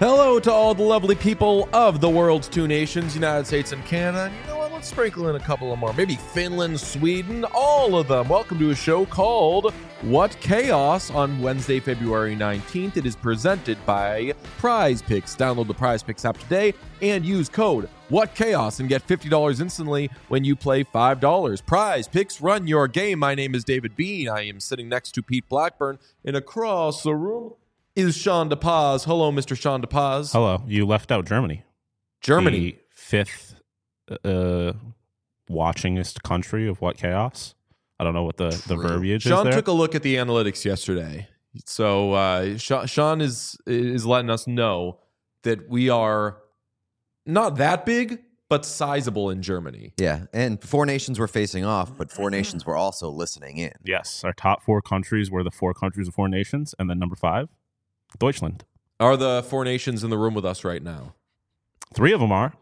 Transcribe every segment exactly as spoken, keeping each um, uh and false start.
Hello to all the lovely people of the world's two nations, United States and Canada. And you know what? Let's sprinkle in a couple of more. Maybe Finland, Sweden, all of them. Welcome to a show called What Chaos on Wednesday, February nineteenth. It is presented by Prize Picks. Download the Prize Picks app today and use code What Chaos and get fifty dollars instantly when you play five dollars. Prize Picks, run your game. My name is David Bean. I am sitting next to Pete Blackburn, and across the room is Sean DePaz. Hello, Mister Sean DePaz. Hello. You left out Germany. Germany. The fifth uh, watchingest country of What Chaos. I don't know what the, the verbiage Sean is there. took a look at the analytics yesterday. So uh, Sean is is letting us know that we are not that big, but sizable in Germany. Yeah, and four nations were facing off, but four nations were also listening in. Yes. Our top four countries were the four countries of four nations. And then number five, Deutschland. Are the four nations in the room with us right now? Three of them are.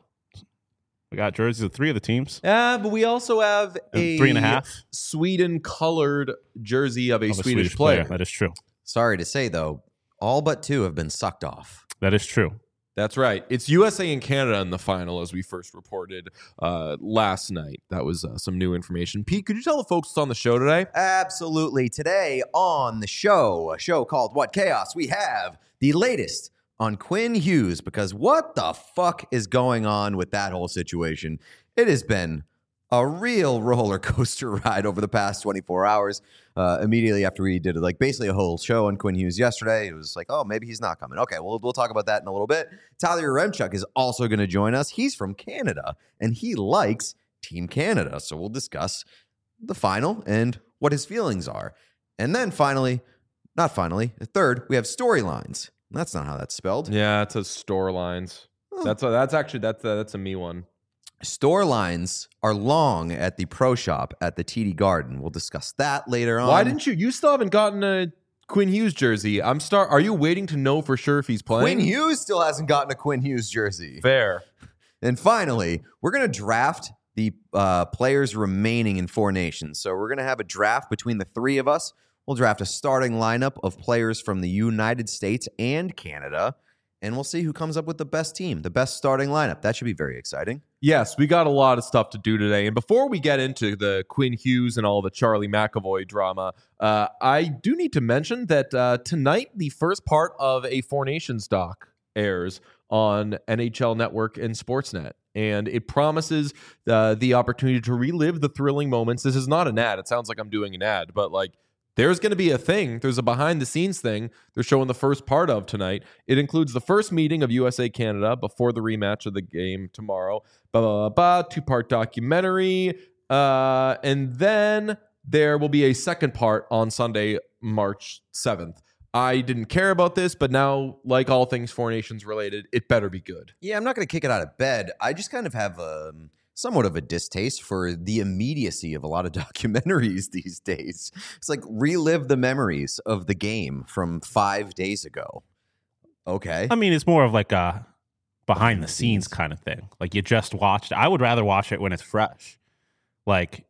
We got jerseys of three of the teams. Yeah, but we also have a three and a half Sweden-colored jersey of a, of a Swedish, Swedish player. player. That is true. Sorry to say, though, all but two have been sucked off. That is true. That's right. It's U S A and Canada in the final, as we first reported uh, last night. That was uh, some new information. Pete, could you tell the folks what's on the show today? Absolutely. Today on the show, a show called What Chaos, we have the latest on Quinn Hughes, because what the fuck is going on with that whole situation? It has been a real roller coaster ride over the past twenty-four hours. Uh, immediately after we did like basically a whole show on Quinn Hughes yesterday, it was like, oh, maybe he's not coming. Okay, well, we'll talk about that in a little bit. Tyler Yaremchuk is also going to join us. He's from Canada, and he likes Team Canada. So we'll discuss the final and what his feelings are. And then finally, not finally, third, we have storylines. That's not how that's spelled. Yeah, it says store lines. Oh. That's a, that's actually that's a, that's a me one. Store lines are long at the pro shop at the T D Garden. We'll discuss that later on. Why didn't you? You still haven't gotten a Quinn Hughes jersey. I'm start. Are you waiting to know for sure if he's playing? Quinn Hughes still hasn't gotten a Quinn Hughes jersey. Fair. And finally, we're going to draft the uh, players remaining in four nations. So we're going to have a draft between the three of us. We'll draft a starting lineup of players from the United States and Canada, and we'll see who comes up with the best team, the best starting lineup. That should be very exciting. Yes, we got a lot of stuff to do today. And before we get into the Quinn Hughes and all the Charlie McAvoy drama, uh, I do need to mention that uh, tonight the first part of a Four Nations doc airs on N H L Network and Sportsnet. And it promises uh, the opportunity to relive the thrilling moments. This is not an ad. It sounds like I'm doing an ad, but like, there's going to be a thing. There's a behind-the-scenes thing they're showing the first part of tonight. It includes the first meeting of U S A Canada before the rematch of the game tomorrow. Blah, blah, blah, blah, two-part documentary. Uh, and then there will be a second part on Sunday, March seventh. I didn't care about this, but now, like all things Four Nations related, it better be good. Yeah, I'm not going to kick it out of bed. I just kind of have um, somewhat of a distaste for the immediacy of a lot of documentaries these days. It's like relive the memories of the game from five days ago. Okay. I mean, it's more of like a behind the scenes kind of thing. Like you just watched. I would rather watch it when it's fresh. Like,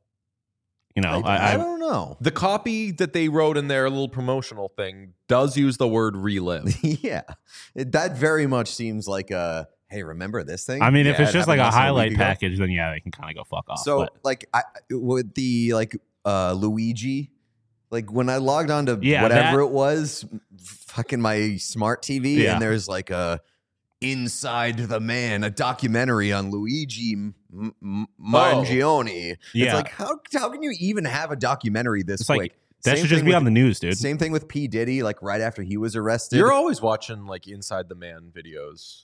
you know, I, I, I don't know. The copy that they wrote in their little promotional thing does use the word relive. Yeah, it, that very much seems like a, hey, remember this thing? I mean, if Yeah, it's it just like happened a less than highlight week ago. package, then yeah, they can kind of go fuck off. So, but. like, I with the like uh, Luigi, like when I logged on to Yeah, whatever that- it was, fucking my smart T V, Yeah. and there's like a Inside the Man, a documentary on Luigi M- M- Mangione. It's Yeah. like how how can you even have a documentary this It's like, quick? that Same should just thing be with- on the news, dude. Same thing with P Diddy, like right after he was arrested. You're always watching like Inside the Man videos,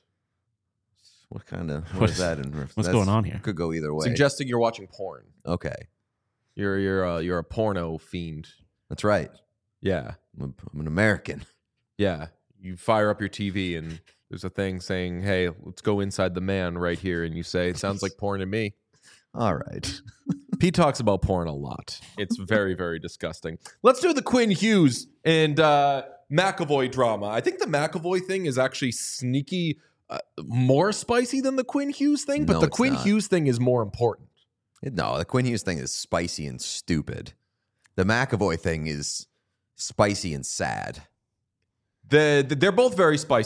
What kind of what What is is- that? In, what's that's- going on here? Could go either way. suggesting you're watching porn. Okay, You're you're a, you're a porno fiend. that's right. Yeah, I'm, a, I'm an American. yeah. You fire up your T V and there's a thing saying, "Hey, let's go inside the man right here," and you say, "It sounds like porn to me." All right. Pete talks about porn a lot. It's very very disgusting. Let's do the Quinn Hughes and uh, McAvoy drama. I think the McAvoy thing is actually sneaky. Uh, more spicy than the Quinn Hughes thing, but No, the it's Quinn not. Hughes thing is more important. No, the Quinn Hughes thing is spicy and stupid. The McAvoy thing is spicy and sad. The, the they're both very spicy.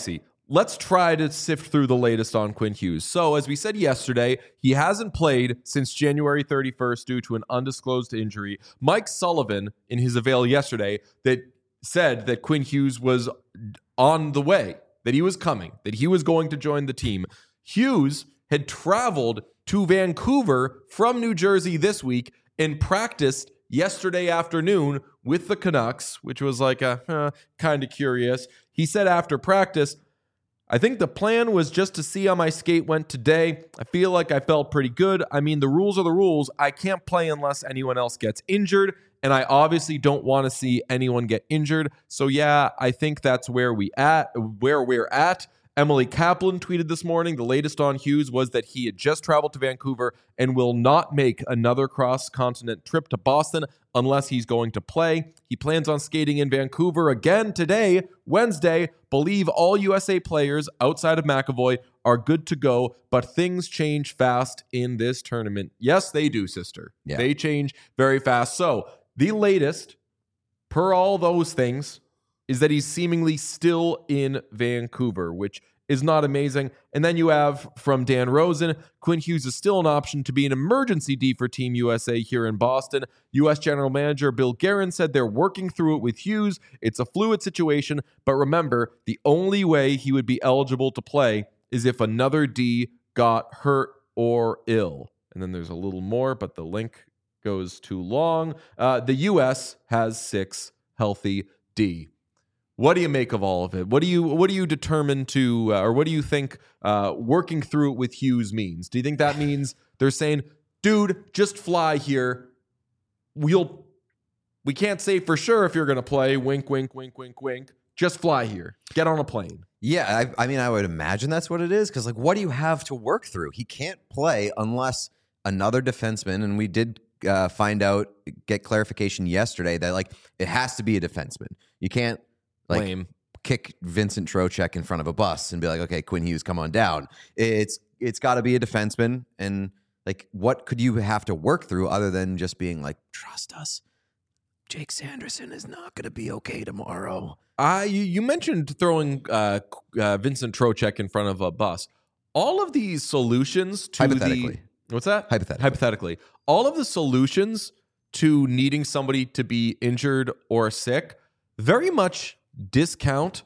let's try to sift through the latest on Quinn Hughes. So, as we said yesterday, he hasn't played since January thirty-first due to an undisclosed injury. Mike Sullivan, in his avail yesterday, that said that Quinn Hughes was on the way, that he was coming, that he was going to join the team. Hughes had traveled to Vancouver from New Jersey this week and practiced yesterday afternoon with the Canucks, which was like a uh, kind of curious. He said after practice, I think the plan was just to see how my skate went today. I feel like I felt pretty good. I mean, the rules are the rules. I can't play unless anyone else gets injured, and I obviously don't want to see anyone get injured. So yeah, I think that's where we at, where we're at. Emily Kaplan tweeted this morning, the latest on Hughes was that he had just traveled to Vancouver and will not make another cross-continent trip to Boston unless he's going to play. He plans on skating in Vancouver again today, Wednesday. Believe all U S A players outside of McAvoy are good to go, but things change fast in this tournament. Yes, they do, sister. Yeah. They change very fast. So the latest, per all those things, is that he's seemingly still in Vancouver, which is not amazing. And then you have from Dan Rosen, Quinn Hughes is still an option to be an emergency D for Team U S A here in Boston. U S General Manager Bill Guerin said they're working through it with Hughes. It's a fluid situation, but remember, the only way he would be eligible to play is if another D got hurt or ill. And then there's a little more, but the link goes too long. Uh, the U S has six healthy D. What do you make of all of it? What do you what do you determine to, uh, or what do you think uh, working through it with Hughes means? Do you think that means they're saying, dude, just fly here. We'll we can't say for sure if you're going to play. Wink, wink, wink, wink, wink. Just fly here. Get on a plane. Yeah, I, I mean, I would imagine that's what it is. Because, like, what do you have to work through? He can't play unless another defenseman, and we did uh, find out, get clarification yesterday that, like, it has to be a defenseman. You can't, like, Lame. kick Vincent Trocheck in front of a bus and be like, okay, Quinn Hughes, come on down. It's It's got to be a defenseman. And, like, what could you have to work through other than just being like, trust us, Jake Sanderson is not going to be okay tomorrow. Uh, you, you mentioned throwing uh, uh, Vincent Trocheck in front of a bus. All of these solutions to Hypothetically. the... What's that? Hypothetically. Hypothetically. All of the solutions to needing somebody to be injured or sick very much discount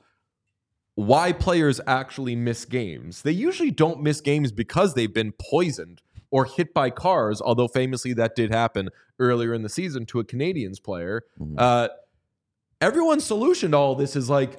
why players actually miss games. They usually don't miss games because they've been poisoned or hit by cars, although famously that did happen earlier in the season to a Canadiens player. Mhm. Uh, everyone's solution to all this is like,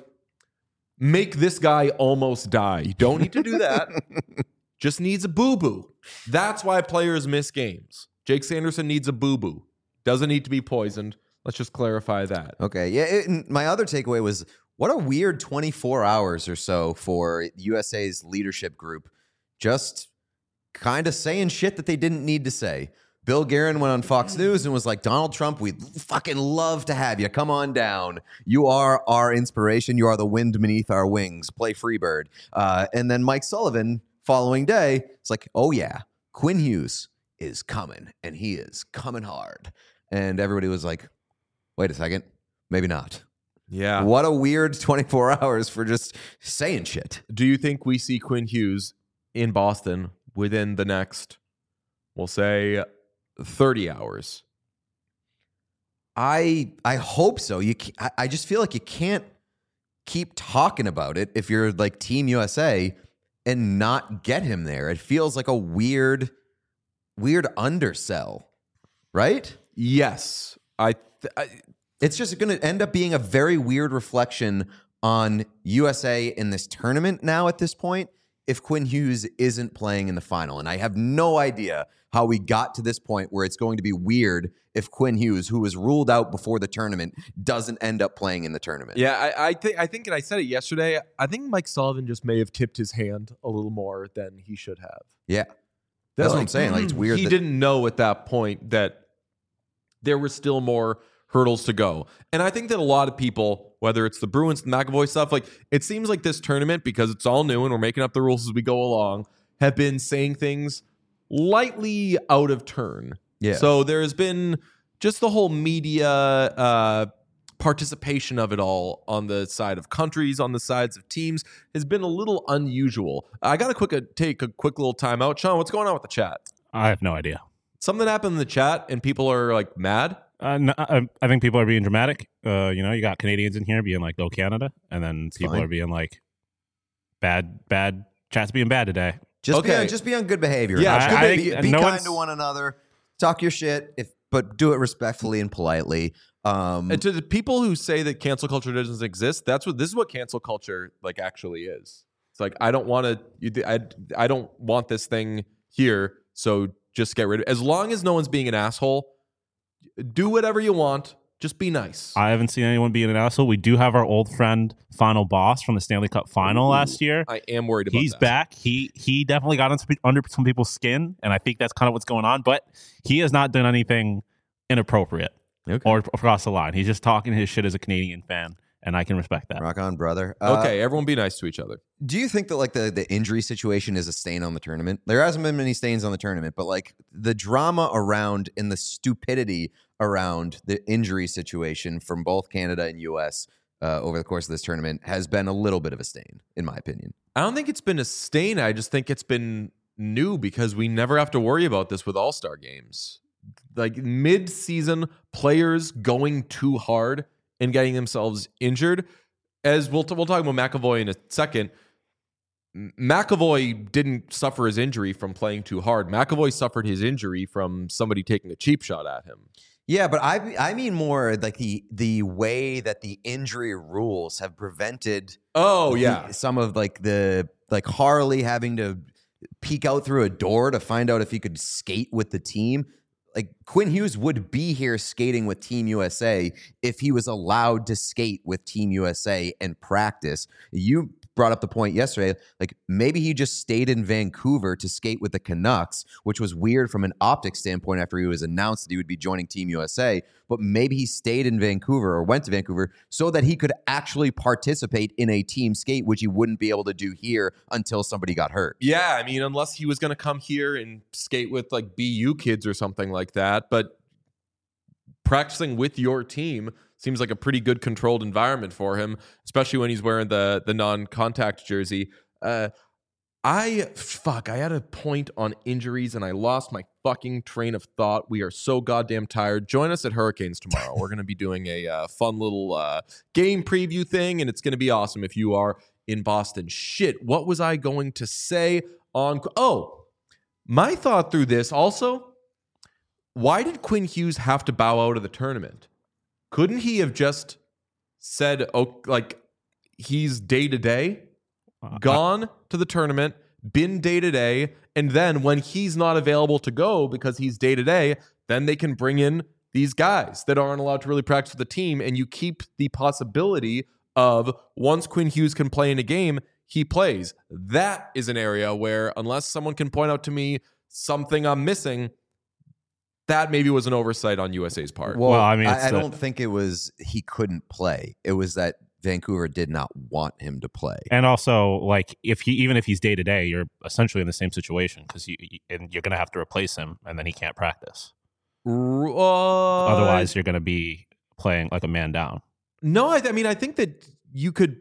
make this guy almost die. You don't need to do that. Just needs a boo-boo. That's why players miss games. Jake Sanderson needs a boo-boo. Doesn't need to be poisoned. Let's just clarify that. Okay. Yeah. It, and my other takeaway was what a weird twenty-four hours or so for U S A's leadership group just kind of saying shit that they didn't need to say. Bill Guerin went on Fox News and was like, Donald Trump, we'd fucking love to have you. Come on down. You are our inspiration. You are the wind beneath our wings. Play Freebird. Uh, and then Mike Sullivan, following day, it's like, oh, yeah, Quinn Hughes is coming, and he is coming hard. And everybody was like, wait a second, maybe not. Yeah. What a weird twenty-four hours for just saying shit. Do you think we see Quinn Hughes in Boston within the next, we'll say, thirty hours? I I hope so. You, ca- I I just feel like you can't keep talking about it if you're like Team U S A and not get him there. It feels like a weird, weird undersell, right? Yes. I, th- I It's just going to end up being a very weird reflection on U S A in this tournament now at this point if Quinn Hughes isn't playing in the final. And I have no idea how we got to this point where it's going to be weird if Quinn Hughes, who was ruled out before the tournament, doesn't end up playing in the tournament. Yeah, I, I think I think, and I said it yesterday. I think Mike Sullivan just may have tipped his hand a little more than he should have. Yeah. That's what I'm Like, saying. Like, it's weird He that- didn't know at that point that there were still more hurdles to go. And I think that a lot of people, whether it's the Bruins, the McAvoy stuff, like it seems like this tournament, because it's all new and we're making up the rules as we go along, have been saying things lightly out of turn. Yeah. So there's been just the whole media uh, participation of it all on the side of countries, on the sides of teams, has been a little unusual. I got to quick uh, take a quick little time out. Sean, what's going on with the chat? I have no idea. Something happened in the chat and people are like mad. Uh, no, I, I think people are being dramatic. Uh, you know, you got Canadians in here being like, "Go Canada," and then It's people fine. are being like, "Bad, bad chat's being bad today." Just be Okay. on, just be on good behavior. Yeah, Just I- be, I be, think be no kind one's- to one another. Talk your shit, if but do it respectfully and politely. Um, And to the people who say that cancel culture doesn't exist, that's what this is what cancel culture like actually is. It's like I don't want to I I don't want this thing here, so just get rid of it. As long as no one's being an asshole, do whatever you want. Just be nice. I haven't seen anyone being an asshole. We do have our old friend Final Boss from the Stanley Cup Final Ooh, last year. I am worried about He's that. back. He he definitely got into, under some people's skin, and I think that's kind of what's going on. But he has not done anything inappropriate okay. or across the line. He's just talking his shit as a Canadian fan, and I can respect that. Rock on, brother. Uh, Okay, everyone be nice to each other. Do you think that like the the injury situation is a stain on the tournament? There hasn't been many stains on the tournament, but like the drama around and the stupidity around the injury situation from both Canada and U S uh, over the course of this tournament has been a little bit of a stain, in my opinion. I don't think it's been a stain. I just think it's been new because we never have to worry about this with All-Star games. Like mid-season players going too hard and getting themselves injured. As we'll, t- we'll talk about McAvoy in a second. M- McAvoy didn't suffer his injury from playing too hard. McAvoy suffered his injury from somebody taking a cheap shot at him. Yeah, but I I mean more like the the way that the injury rules have prevented Oh, the- yeah. some of like the like Harley having to peek out through a door to find out if he could skate with the team. Like Quinn Hughes would be here skating with Team U S A if he was allowed to skate with Team U S A and practice. You brought up the point yesterday, like maybe he just stayed in Vancouver to skate with the Canucks, which was weird from an optics standpoint after he was announced that he would be joining Team U S A. But maybe he stayed in Vancouver or went to Vancouver so that he could actually participate in a team skate, which he wouldn't be able to do here until somebody got hurt. Yeah, I mean, unless he was going to come here and skate with like B U kids or something like that. But practicing with your team seems like a pretty good controlled environment for him, especially when he's wearing the the non-contact jersey. Uh, I fuck, I had a point on injuries and I lost my fucking train of thought. We are so goddamn tired. Join us at Hurricanes tomorrow. We're going to be doing a uh, fun little uh, game preview thing, and it's going to be awesome if you are in Boston. Shit, what was I going to say on? Oh, my thought through this also. Why did Quinn Hughes have to bow out of the tournament? Couldn't he have just said, "Oh, like he's day to day"? Uh, Gone to the tournament, been day to day, and then when he's not available to go because he's day to day, then they can bring in these guys that aren't allowed to really practice with the team, and you keep the possibility of once Quinn Hughes can play in a game, he plays. That is an area where unless someone can point out to me something I'm missing, that maybe was an oversight on U S A's part. Well, Well, I mean, I, it's I the- don't think it was he couldn't play. It was that Vancouver did not want him to play. And also, like, if he even if he's day to day, you're essentially in the same situation because you and you're gonna have to replace him, and then he can't practice. R- uh, Otherwise, you're gonna be playing like a man down. no, I, I mean, I think that you could.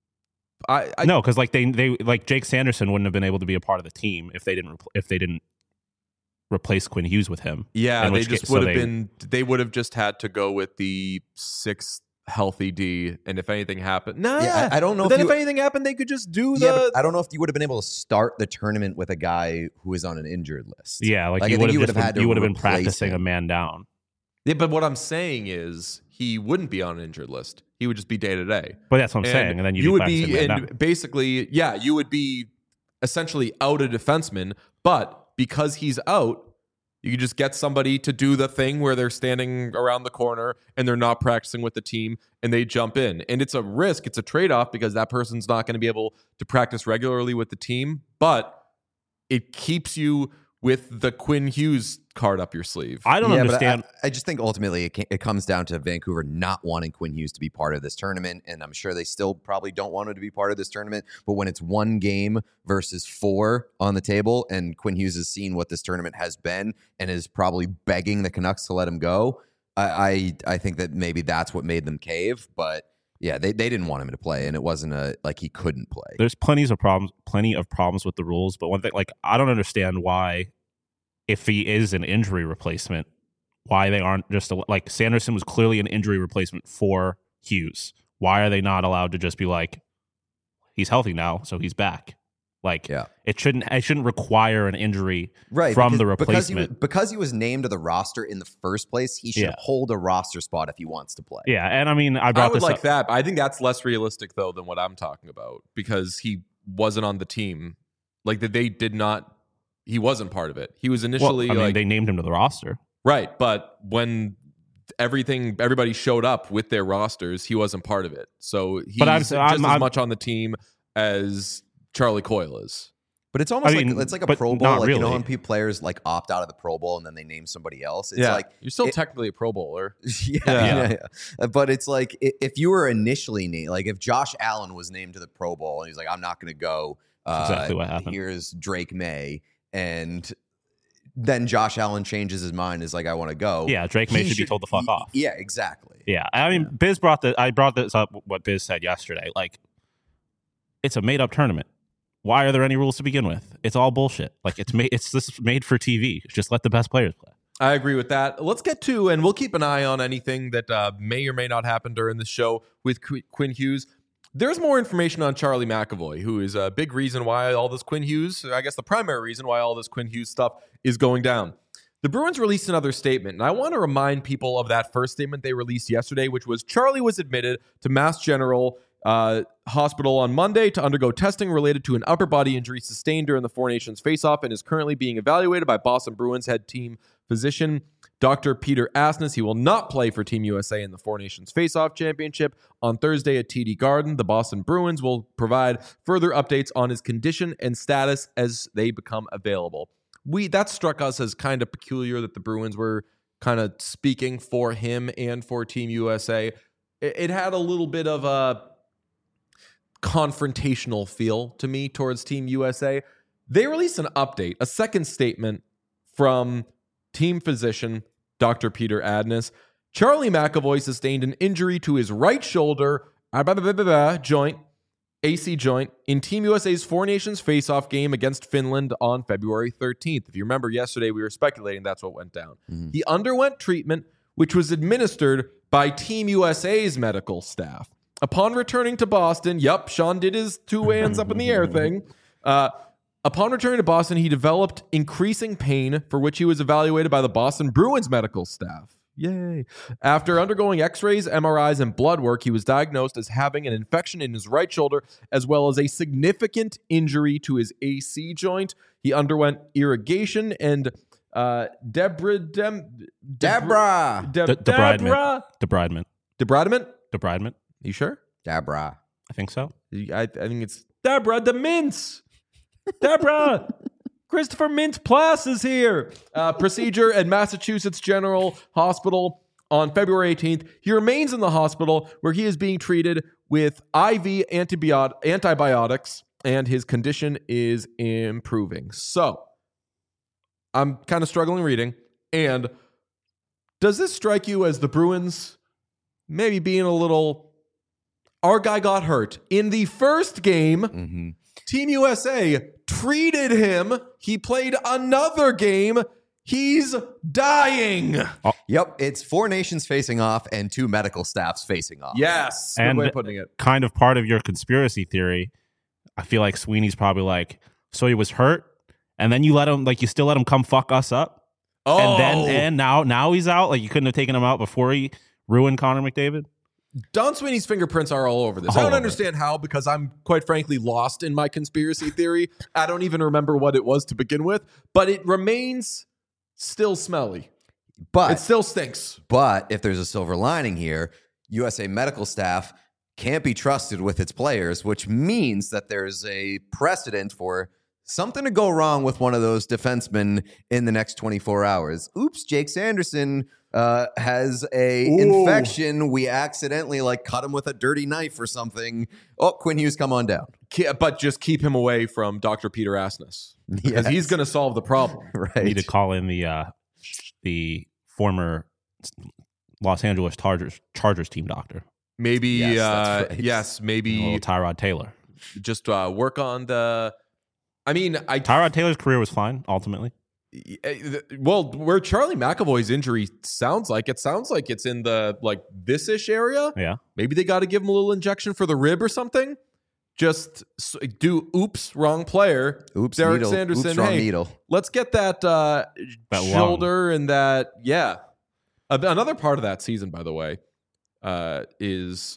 I, I no, because like they they like Jake Sanderson wouldn't have been able to be a part of the team if they didn't repl- if they didn't replace Quinn Hughes with him. Yeah, In they which just case- so would have they- been. They would have just had to go with the sixth healthy D, and if anything happened, nah. Yeah, I- I don't know But if then you- if anything happened, they could just do Yeah, the. but I don't know if you would have been able to start the tournament with a guy who is on an injured list. Yeah, like, Like, I you think would have you would just have been, had to you would have been replace practicing him. a man down. Yeah, but what I'm saying is he wouldn't be on an injured list. He would just be day to day. But that's what I'm saying. And then you'd you be would practicing be, man and down. basically, yeah, you would be essentially out a defenseman. But because he's out, you could just get somebody to do the thing where they're standing around the corner and they're not practicing with the team and they jump in. And it's a risk, it's a trade off because that person's not going to be able to practice regularly with the team, but it keeps you with the Quinn Hughes card up your sleeve. I don't Yeah, but understand. I, I just think ultimately it, ca- it comes down to Vancouver not wanting Quinn Hughes to be part of this tournament, and I'm sure they still probably don't want him to be part of this tournament. But when it's one game versus four on the table, and Quinn Hughes has seen what this tournament has been and is probably begging the Canucks to let him go, I, I I think that maybe that's what made them cave, but yeah, they, they didn't want him to play, and it wasn't a like he couldn't play. There's plenty of problems, plenty of problems with the rules, but one thing, like I don't understand why, if he is an injury replacement, why they aren't just like Sanderson was clearly an injury replacement for Hughes. Why are they not allowed to just be like, he's healthy now, so he's back? Like, yeah. it shouldn't it shouldn't require an injury right, from because, the because he, was, replacement. because he was named to the roster in the first place, he should Yeah. hold a roster spot if he wants to play. Yeah, and I mean, I brought I would this like up. that. But I think that's less realistic though than what I'm talking about because he wasn't on the team. Like that, they did not. He wasn't part of it. He was Well, initially I mean, like they named him to the roster. right, but when everything everybody showed up with their rosters, he wasn't part of it. So he's But I'm- just I'm- as I'm- much on the team as Charlie Coyle is. But it's almost I mean, like it's like a but Pro Bowl. not Like you know really. when people players like opt out of the Pro Bowl and then they name somebody else. It's yeah, like you're still it- technically a Pro Bowler. yeah, Yeah. yeah, yeah. But it's like i- if you were initially named, like if Josh Allen was named to the Pro Bowl and he's like, I'm not going to go. Uh, That's exactly what happened. Here's Drake May, and then Josh Allen changes his mind. Is like, I want to go. Yeah, Drake May He should be told to fuck he- off. Yeah, exactly. Yeah, I mean, Biz brought the I brought this up. What Biz said yesterday, like, it's a made up tournament. Why are there any rules to begin with? It's all bullshit. Like it's made. It's this made for T V. Just let the best players play. I agree with that. Let's get to, and we'll keep an eye on anything that uh, may or may not happen during the show with Qu- Quinn Hughes. There's more information on Charlie McAvoy, who is a big reason why all this Quinn Hughes, I guess the primary reason why all this Quinn Hughes stuff is going down. The Bruins released another statement, and I want to remind people of that first statement they released yesterday, which was Charlie was admitted to Mass General uh, Hospital on Monday to undergo testing related to an upper body injury sustained during the Four Nations faceoff and is currently being evaluated by Boston Bruins head team physician Doctor Peter Asness. He will not play for Team U S A in the Four Nations Faceoff Championship on Thursday at T D Garden. The Boston Bruins will provide further updates on his condition and status as they become available. We that struck us as kind of peculiar that the Bruins were kind of speaking for him and for Team U S A. It, it had a little bit of a confrontational feel to me towards Team U S A. They released an update, a second statement from team physician Doctor Peter Asness. Charlie McAvoy sustained an injury to his right shoulder joint, A C joint, in Team U S A's Four Nations face-off game against Finland on February thirteenth. If you remember yesterday, we were speculating that's what went down. Mm-hmm. He underwent treatment, which was administered by Team U S A's medical staff. Upon returning to Boston, yep, Sean did his two hands up in the air thing. Uh, upon returning to Boston, he developed increasing pain for which he was evaluated by the Boston Bruins medical staff. Yay. After undergoing x-rays, M R Is, and blood work, he was diagnosed as having an infection in his right shoulder, as well as a significant injury to his A C joint. He underwent irrigation and uh, debridem... Deborah. Deb- De- Deborah? Debridement. Debridement? Debridement. You sure? Deborah. I think so. I, I think it's Deborah the Mintz. Deborah. Christopher Mintz Plus is here. Uh, procedure at Massachusetts General Hospital on February eighteenth. He remains in the hospital where he is being treated with I V antibiot- antibiotics, and his condition is improving. So, I'm kind of struggling reading. And does this strike you as the Bruins maybe being a little... Our guy got hurt in the first game. Mm-hmm. Team U S A treated him. He played another game. He's dying. Yep, it's four nations facing off and two medical staffs facing off. Yes. Good And- way of putting it. Kind of part of your conspiracy theory. I feel like Sweeney's probably like, so he was hurt, and then you let him, like, you still let him come fuck us up, Oh, and then and now now he's out. Like you couldn't have taken him out before he ruined Connor McDavid. Don Sweeney's fingerprints are all over this. All I don't over understand how, because I'm quite frankly lost in my conspiracy theory. I don't even remember what it was to begin with, but it remains still smelly. But It still stinks. But if there's a silver lining here, U S A medical staff can't be trusted with its players, which means that there's a precedent for something to go wrong with one of those defensemen in the next twenty-four hours. Oops, Jake Sanderson uh, has a Ooh. infection. We accidentally like cut him with a dirty knife or something. Oh, Quinn Hughes, come on down. Ke- But just keep him away from Doctor Peter Asness, because Yes. he's going to solve the problem. Right. Need to call in the uh, the former Los Angeles Chargers Chargers team doctor. Maybe, Yes, that's uh, right. yes, A maybe little Tyrod Taylor. just uh, work on the. I mean, I Tyrod Taylor's career was fine ultimately. well, where Charlie McAvoy's injury sounds like it sounds like it's in the like this ish area. Yeah. Maybe they got to give him a little injection for the rib or something. Just s- do oops, wrong player. Oops, Derek needle. Sanderson, Oops, wrong hey, needle. Let's get that, uh, That lung. shoulder and that. Yeah. Uh, another part of that season, by the way, uh, is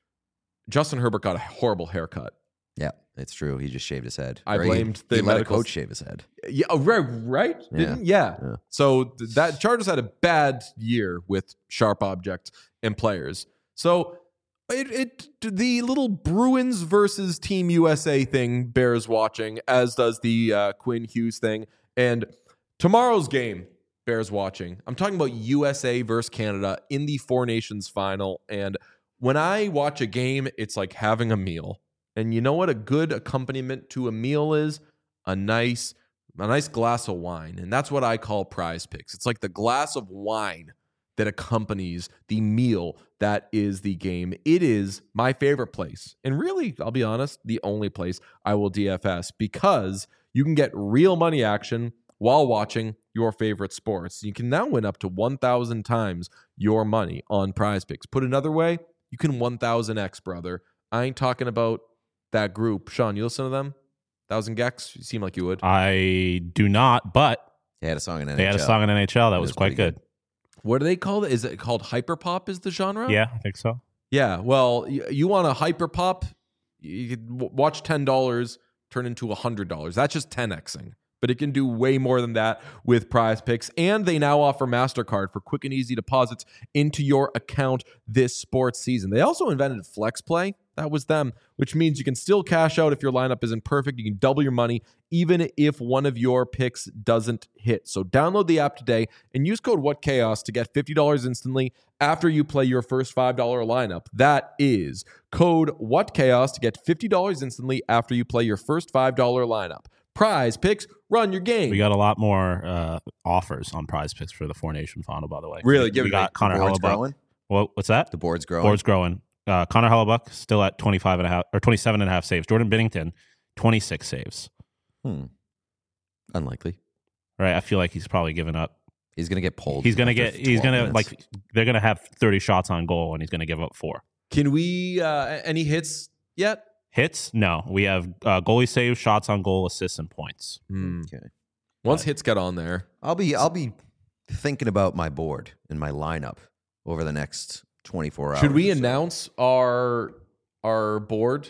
Justin Herbert got a horrible haircut. Yeah, it's true. He just shaved his head. I Or he- blamed the he let a medical- coach shave his head. Yeah, oh, right, right. Yeah. Didn't? Yeah. Yeah. So th- that Chargers had a bad year with sharp objects and players. So it, it the little Bruins versus Team U S A thing bears watching, as does the uh, Quinn Hughes thing, and tomorrow's game bears watching. I'm talking about U S A versus Canada in the Four Nations final, and when I watch a game, it's like having a meal. And you know what a good accompaniment to a meal is? A nice a nice glass of wine. And that's what I call Prize Picks. It's like the glass of wine that accompanies the meal that is the game. It is my favorite place. And really, I'll be honest, the only place I will D F S, because you can get real money action while watching your favorite sports. You can now win up to one thousand times your money on Prize Picks. Put another way, you can one thousand X, brother. I ain't talking about that group. Sean, you listen to them? Thousand Gex? You seem like you would. I do not, but They had a song in N H L. they had a song in N H L that It was was quite pretty good. What do they call it? Is it called hyperpop is the genre? Yeah, I think so. Yeah. Well, you, you want a hyperpop, you could w- watch ten dollars turn into one hundred dollars. That's just ten Xing. But it can do way more than that with Prize Picks. And they now offer MasterCard for quick and easy deposits into your account this sports season. They also invented Flex Play. That was them, which means you can still cash out if your lineup isn't perfect. You can double your money even if one of your picks doesn't hit. So download the app today and use code WhatChaos to get fifty dollars instantly after you play your first five dollars lineup. That is code WhatChaos to get fifty dollars instantly after you play your first five dollars lineup. Prize Picks, run your game. We got a lot more uh, offers on Prize Picks for the Four Nation final, by the way. Really? We, Give we it to me. got Connor The board's Hellebuck. growing. What, what's that? The board's growing. Board's growing. Uh, Connor Hellebuck still at twenty-five and a half or twenty-seven and a half saves. Jordan Binnington, twenty-six saves. Hmm. Unlikely. Right? I feel like he's probably given up. He's gonna get pulled. He's gonna after get. He's twelve gonna minutes. like. They're gonna have thirty shots on goal, and he's gonna give up four Can we, uh, any hits yet? hits. No, we have uh, goalie saves, shots on goal, assists, and points. Hmm. Okay. Once hits get on there. I'll be I'll be thinking about my board and my lineup over the next twenty-four hours. Should we or so. announce our our board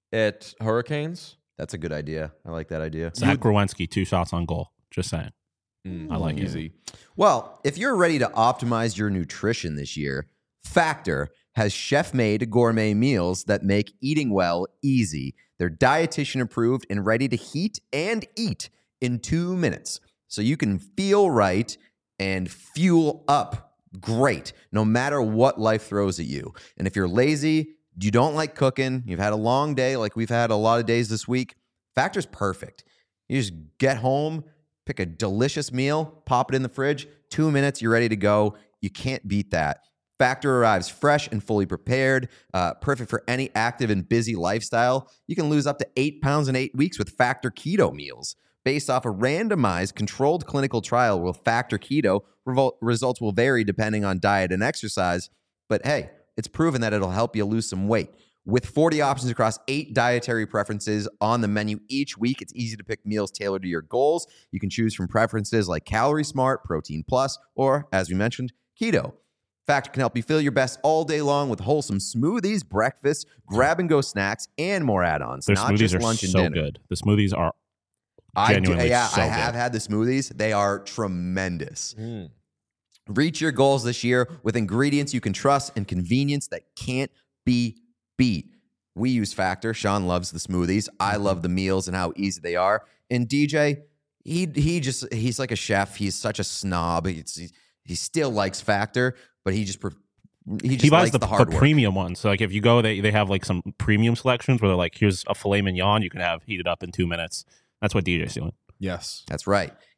at Hurricanes? That's a good idea. I like that idea. Zach Growinski, two shots on goal. Just saying. Mm, I like it. easy. Well, if you're ready to optimize your nutrition this year, Factor has chef-made gourmet meals that make eating well easy. They're dietitian approved and ready to heat and eat in two minutes. So you can feel right and fuel up great no matter what life throws at you. And if you're lazy, you don't like cooking, you've had a long day like we've had a lot of days this week, Factor's perfect. You just get home, pick a delicious meal, pop it in the fridge, two minutes, you're ready to go. You can't beat that. Factor arrives fresh and fully prepared, uh, perfect for any active and busy lifestyle. You can lose up to eight pounds in eight weeks with Factor Keto meals. Based off a randomized, controlled clinical trial with Factor Keto, revol- results will vary depending on diet and exercise. But hey, it's proven that it'll help you lose some weight. With forty options across eight dietary preferences on the menu each week, it's easy to pick meals tailored to your goals. You can choose from preferences like Calorie Smart, Protein Plus, or, as we mentioned, Keto. Factor can help you feel your best all day long with wholesome smoothies, breakfast, grab-and-go snacks, and more add-ons. Their not smoothies just are lunch and so dinner. good. The smoothies are I do, genuinely yeah, so I have good. had the smoothies. They are tremendous. Mm. Reach your goals this year with ingredients you can trust and convenience that can't be beat. We use Factor. Sean loves the smoothies. I love the meals and how easy they are. And D J, he he just he's like a chef. He's such a snob. He's, he, he still likes Factor, but he just pre- he just He buys likes the, the, the, hard work. premium ones. So like if you go, they they have like some premium selections where they're like, here's a filet mignon you can have heated up in two minutes. That's what D J's doing. Yes. That's right.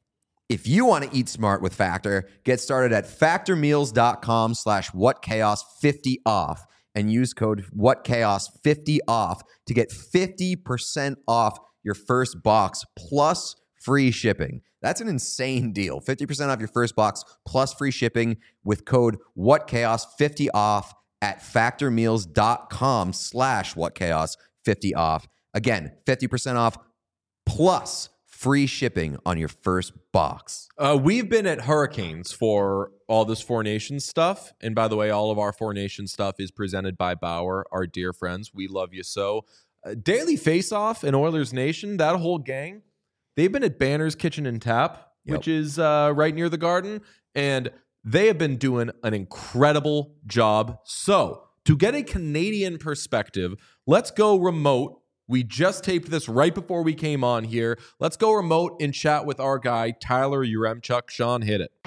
If you want to eat smart with Factor, get started at factormeals.com slash whatchaos50 off and use code whatchaos50 off to get fifty percent off your first box plus free shipping. That's an insane deal. fifty percent off your first box plus free shipping with code whatchaos50 off at factormeals.com slash whatchaos50 off. Again, fifty percent off plus free shipping on your first box. Uh, we've been at Hurricanes for all this Four Nations stuff. And by the way, all of our Four Nations stuff is presented by Bauer, our dear friends. We love you so. Uh, Daily Face-Off and Oilers Nation, that whole gang, they've been at Banner's Kitchen and Tap, Yep. which is uh, right near the Garden. And they have been doing an incredible job. So to get a Canadian perspective, let's go remote. We just taped this right before we came on here. Let's go remote and chat with our guy, Tyler Yaremchuk. Sean, hit it.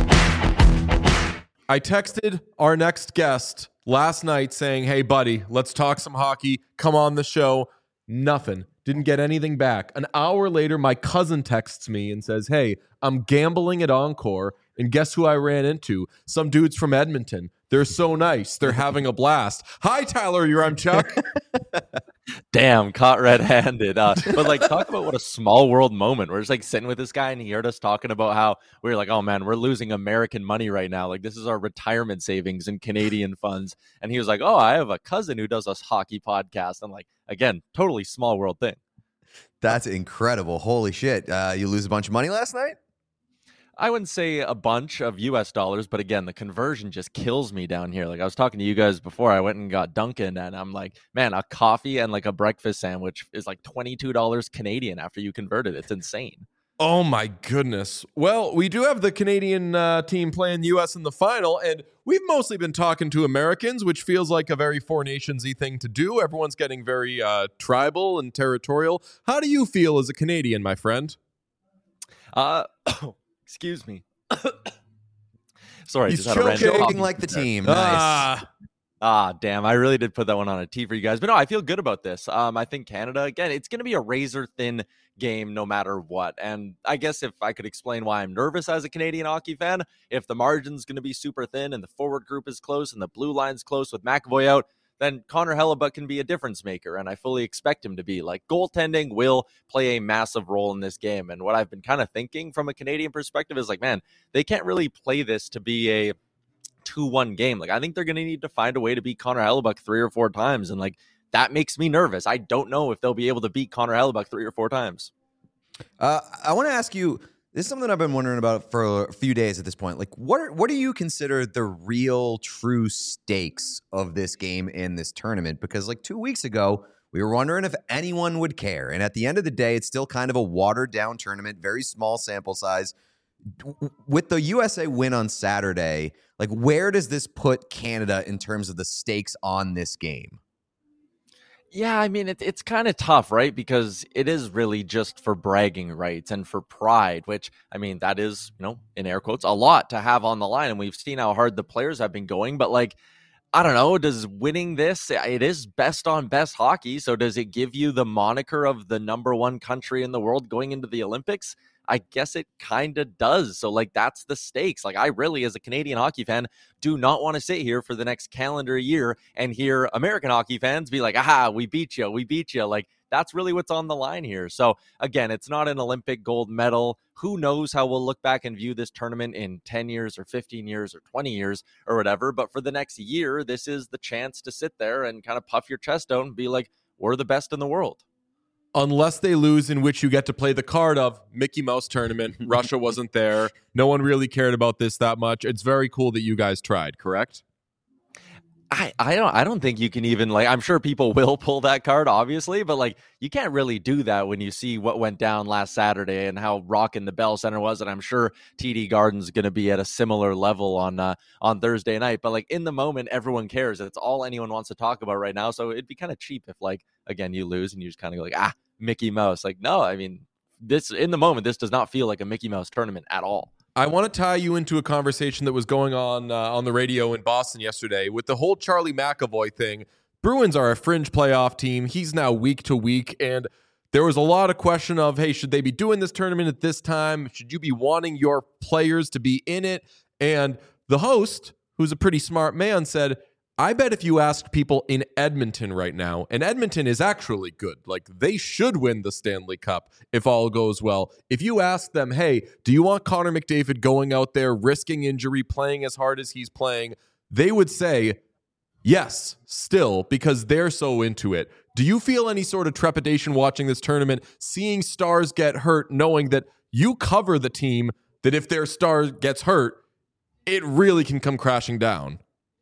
I texted our next guest last night saying, hey, buddy, let's talk some hockey. Come on the show. Nothing. Didn't get anything back. An hour later, my cousin texts me and says, hey, I'm gambling at Encore, and guess who I ran into? Some dudes from Edmonton. They're so nice. They're having a blast. Hi, Tyler Yaremchuk. Damn, caught red-handed. Uh, but like, talk about what a small world moment. We're just like sitting with this guy, and he heard us talking about how we were like, "Oh man, we're losing American money right now. Like, this is our retirement savings and Canadian funds." And he was like, "Oh, I have a cousin who does a hockey podcast." I'm like, again, totally small world thing. That's incredible. Holy shit. Uh, you lose a bunch of money last night? I wouldn't say a bunch of U S dollars, but again, the conversion just kills me down here. Like I was talking to you guys before, I went and got Dunkin', and I'm like, man, a coffee and like a breakfast sandwich is like twenty-two dollars Canadian after you convert it. It's insane. Oh, my goodness. Well, we do have the Canadian uh, team playing U S in the final, and we've mostly been talking to Americans, which feels like a very Four Nations-y thing to do. Everyone's getting very uh, tribal and territorial. How do you feel as a Canadian, my friend? Uh, excuse me. Sorry, He's just had a random choking coffee like the there. team. Nice. Ah. Ah, damn. I really did put that one on a tee for you guys. But no, I feel good about this. Um, I think Canada, again, it's going to be a razor-thin game no matter what. And I guess if I could explain why I'm nervous as a Canadian hockey fan, if the margin's going to be super thin and the forward group is close and the blue line's close with McAvoy out, then Connor Hellebuyck can be a difference maker, and I fully expect him to be. Like, goaltending will play a massive role in this game. And what I've been kind of thinking from a Canadian perspective is like, man, they can't really play this to be a two one game. Like, I think they're going to need to find a way to beat Connor Hellebuyck three or four times. And like, that makes me nervous. I don't know if they'll be able to beat Connor Hellebuyck three or four times. Uh, I want to ask you, this is something I've been wondering about for a few days at this point. Like, what are, what do you consider the real true stakes of this game in this tournament? Because like two weeks ago, we were wondering if anyone would care. And at the end of the day, it's still kind of a watered down tournament, very small sample size. With the U S A win on Saturday, like, where does this put Canada in terms of the stakes on this game? Yeah, I mean, it, it's kind of tough, right? Because it is really just for bragging rights and for pride, which, I mean, that is, you know, in air quotes, a lot to have on the line. And we've seen how hard the players have been going. But, like, I don't know, does winning this, it is best on best hockey. So does it give you the moniker of the number one country in the world going into the Olympics? I guess it kind of does. So, like, that's the stakes. Like, I really, as a Canadian hockey fan, do not want to sit here for the next calendar year and hear American hockey fans be like, aha, we beat you, we beat you. Like, that's really what's on the line here. So, again, it's not an Olympic gold medal. Who knows how we'll look back and view this tournament in ten years or fifteen years or twenty years or whatever. But for the next year, this is the chance to sit there and kind of puff your chest out and be like, we're the best in the world. Unless they lose, in which you get to play the card of Mickey Mouse tournament. Russia wasn't there. No one really cared about this that much. It's very cool that you guys tried, correct? I, I don't I don't think you can even, like, I'm sure people will pull that card, obviously, but like, you can't really do that when you see what went down last Saturday and how rocking the Bell Center was. And I'm sure T D Garden's going to be at a similar level on uh, on Thursday night. But like, in the moment, everyone cares. It's all anyone wants to talk about right now. So it'd be kind of cheap if, like, again, you lose and you just kind of go like, ah, Mickey Mouse. Like, no, I mean, this in the moment, this does not feel like a Mickey Mouse tournament at all. I want to tie you into a conversation that was going on uh, on the radio in Boston yesterday with the whole Charlie McAvoy thing. Bruins are a fringe playoff team. He's now week to week, and there was a lot of question of, hey, should they be doing this tournament at this time? Should you be wanting your players to be in it? And the host, who's a pretty smart man, said, I bet if you asked people in Edmonton right now, and Edmonton is actually good, like they should win the Stanley Cup if all goes well. If you ask them, hey, do you want Connor McDavid going out there, risking injury, playing as hard as he's playing? They would say, yes, still, because they're so into it. Do you feel any sort of trepidation watching this tournament, seeing stars get hurt, knowing that you cover the team, that if their star gets hurt, it really can come crashing down?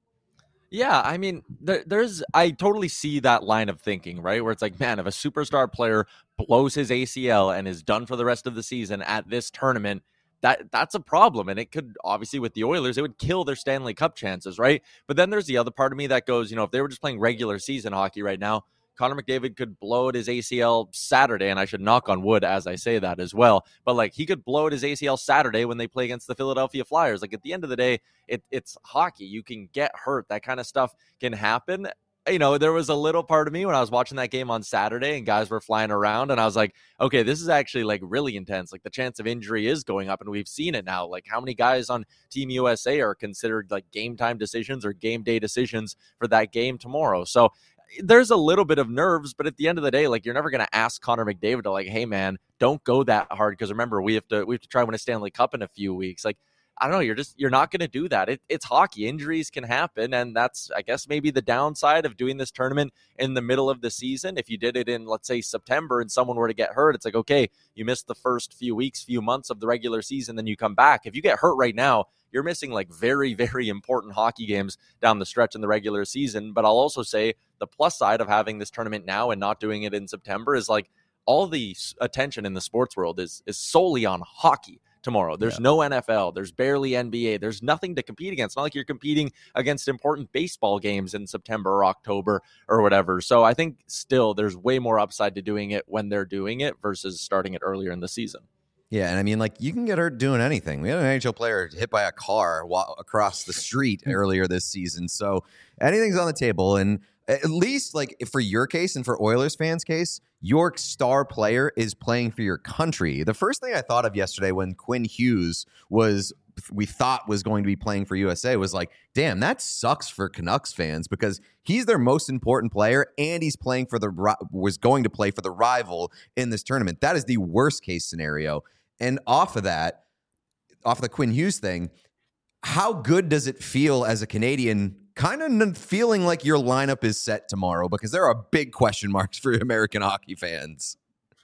Yeah, I mean, there, there's, I totally see that line of thinking, right? Where it's like, man, if a superstar player blows his A C L and is done for the rest of the season at this tournament, that that's a problem. And it could, obviously, with the Oilers, it would kill their Stanley Cup chances, right? But then there's the other part of me that goes, you know, if they were just playing regular season hockey right now, Connor McDavid could blow at his A C L Saturday, and I should knock on wood as I say that as well. But like he could blow at his A C L Saturday when they play against the Philadelphia Flyers. Like at the end of the day, it, it's hockey. You can get hurt. That kind of stuff can happen. You know, there was a little part of me when I was watching that game on Saturday and guys were flying around and I was like, okay, this is actually like really intense. Like the chance of injury is going up and we've seen it now. Like how many guys on Team U S A are considered like game time decisions or game day decisions for that game tomorrow? So there's a little bit of nerves, but at the end of the day, like you're never going to ask Connor McDavid to like, hey man, don't go that hard. Cause remember, we have to, we have to try to win a Stanley Cup in a few weeks. Like, I don't know. You're just, you're not going to do that. It, it's hockey. Injuries can happen. And that's, I guess, maybe the downside of doing this tournament in the middle of the season. If you did it in, let's say, September and someone were to get hurt, it's like, okay, you missed the first few weeks, few months of the regular season, then you come back. If you get hurt right now, you're missing like very, very important hockey games down the stretch in the regular season. But I'll also say the plus side of having this tournament now and not doing it in September is like all the attention in the sports world is, is solely on hockey tomorrow. There's yeah. no N F L. There's barely N B A. There's nothing to compete against. It's not like you're competing against important baseball games in September or October or whatever. So I think still there's way more upside to doing it when they're doing it versus starting it earlier in the season. Yeah, and I mean, like, you can get hurt doing anything. We had an N H L player hit by a car while, across the street earlier this season. So anything's on the table. And at least, like, for your case and for Oilers fans' case, your star player is playing for your country. The first thing I thought of yesterday when Quinn Hughes was, we thought was going to be playing for U S A was like, damn, that sucks for Canucks fans because he's their most important player and he's playing for the, was going to play for the rival in this tournament. That is the worst case scenario. And off of that, off the Quinn Hughes thing, how good does it feel as a Canadian kind of feeling like your lineup is set tomorrow? Because there are big question marks for American hockey fans.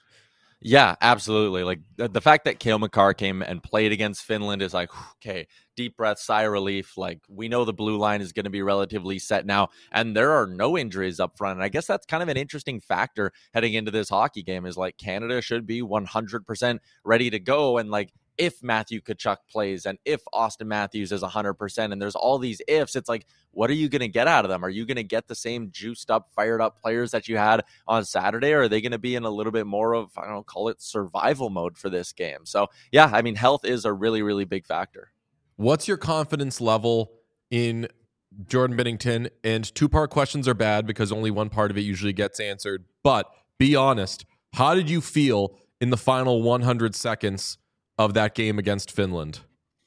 Yeah, absolutely. Like the, the fact that Cale Makar came and played against Finland is like, okay, deep breath, sigh of relief. Like we know the blue line is going to be relatively set now, and there are no injuries up front. And I guess that's kind of an interesting factor heading into this hockey game is like Canada should be one hundred percent ready to go. And like, if Matthew Tkachuk plays and if Austin Matthews is one hundred percent and there's all these ifs, it's like, what are you going to get out of them? Are you going to get the same juiced up, fired up players that you had on Saturday? Or are they going to be in a little bit more of, I don't know, call it survival mode for this game? So yeah, I mean, health is a really, really big factor. What's your confidence level in Jordan Binnington? And two-part questions are bad because only one part of it usually gets answered. But be honest, how did you feel in the final one hundred seconds of that game against Finland?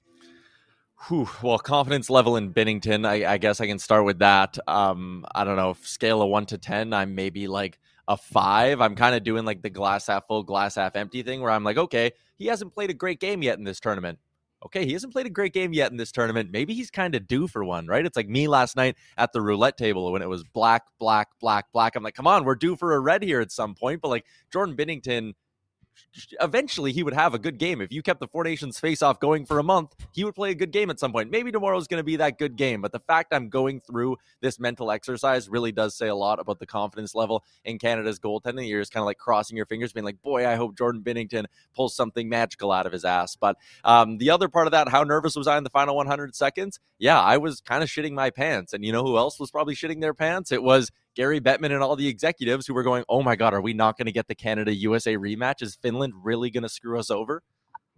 Whew, well, confidence level in Binnington, I, I guess I can start with that. Um, I don't know, scale of one to ten, I'm maybe like a five. I'm kind of doing like the glass half full, glass half empty thing where I'm like, okay, he hasn't played a great game yet in this tournament. Okay, he hasn't played a great game yet in this tournament. Maybe he's kind of due for one, right? It's like me last night at the roulette table when it was black, black, black, black. I'm like, come on, we're due for a red here at some point. But like Jordan Binnington, eventually he would have a good game. If you kept the Four Nations face-off going for a month, he would play a good game at some point. Maybe tomorrow's going to be that good game, but the fact I'm going through this mental exercise really does say a lot about the confidence level in Canada's goaltending. You're just kind of like crossing your fingers, being like, boy, I hope Jordan Binnington pulls something magical out of his ass. But um, the other part of that, how nervous was I in the final one hundred seconds? Yeah, I was kind of shitting my pants. And you know who else was probably shitting their pants? It was Gary Bettman and all the executives who were going, oh my God, are we not going to get the Canada-U S A rematch? Is Finland really going to screw us over?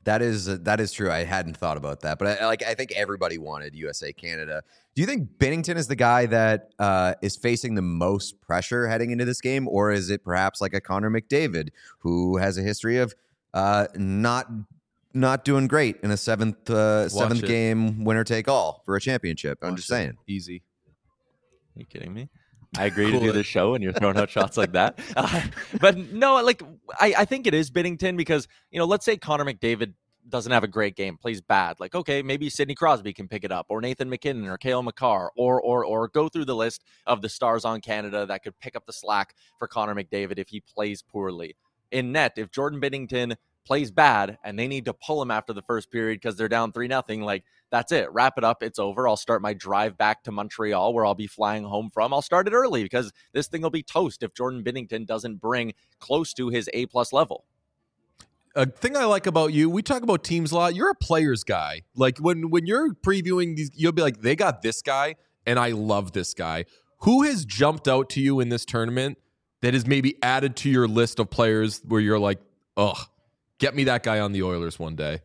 That is that is true. I hadn't thought about that, but I, like I think everybody wanted U S A Canada. Do you think Binnington is the guy that uh, is facing the most pressure heading into this game, or is it perhaps like a Connor McDavid who has a history of uh, not not doing great in a seventh uh, seventh it. game winner take all for a championship? I'm Watch just it. saying. Easy. Are you kidding me? I agree Cool to do it. this show and you're throwing out shots like that. Uh, but no, like I, I think it is Binnington because, you know, let's say Connor McDavid doesn't have a great game, plays bad. Like, okay, maybe Sidney Crosby can pick it up, or Nathan McKinnon, or Cale Makar, or or or go through the list of the stars on Canada that could pick up the slack for Connor McDavid if he plays poorly. In net, if Jordan Binnington plays bad and they need to pull him after the first period because they're down three nothing, like that's it. Wrap it up. It's over. I'll start my drive back to Montreal where I'll be flying home from. I'll start it early because this thing will be toast if Jordan Binnington doesn't bring close to his A plus level. A thing I like about you, we talk about teams a lot. You're a players guy. Like when when you're previewing these, you'll be like, they got this guy, and I love this guy. Who has jumped out to you in this tournament that has maybe added to your list of players where you're like, ugh, get me that guy on the Oilers one day?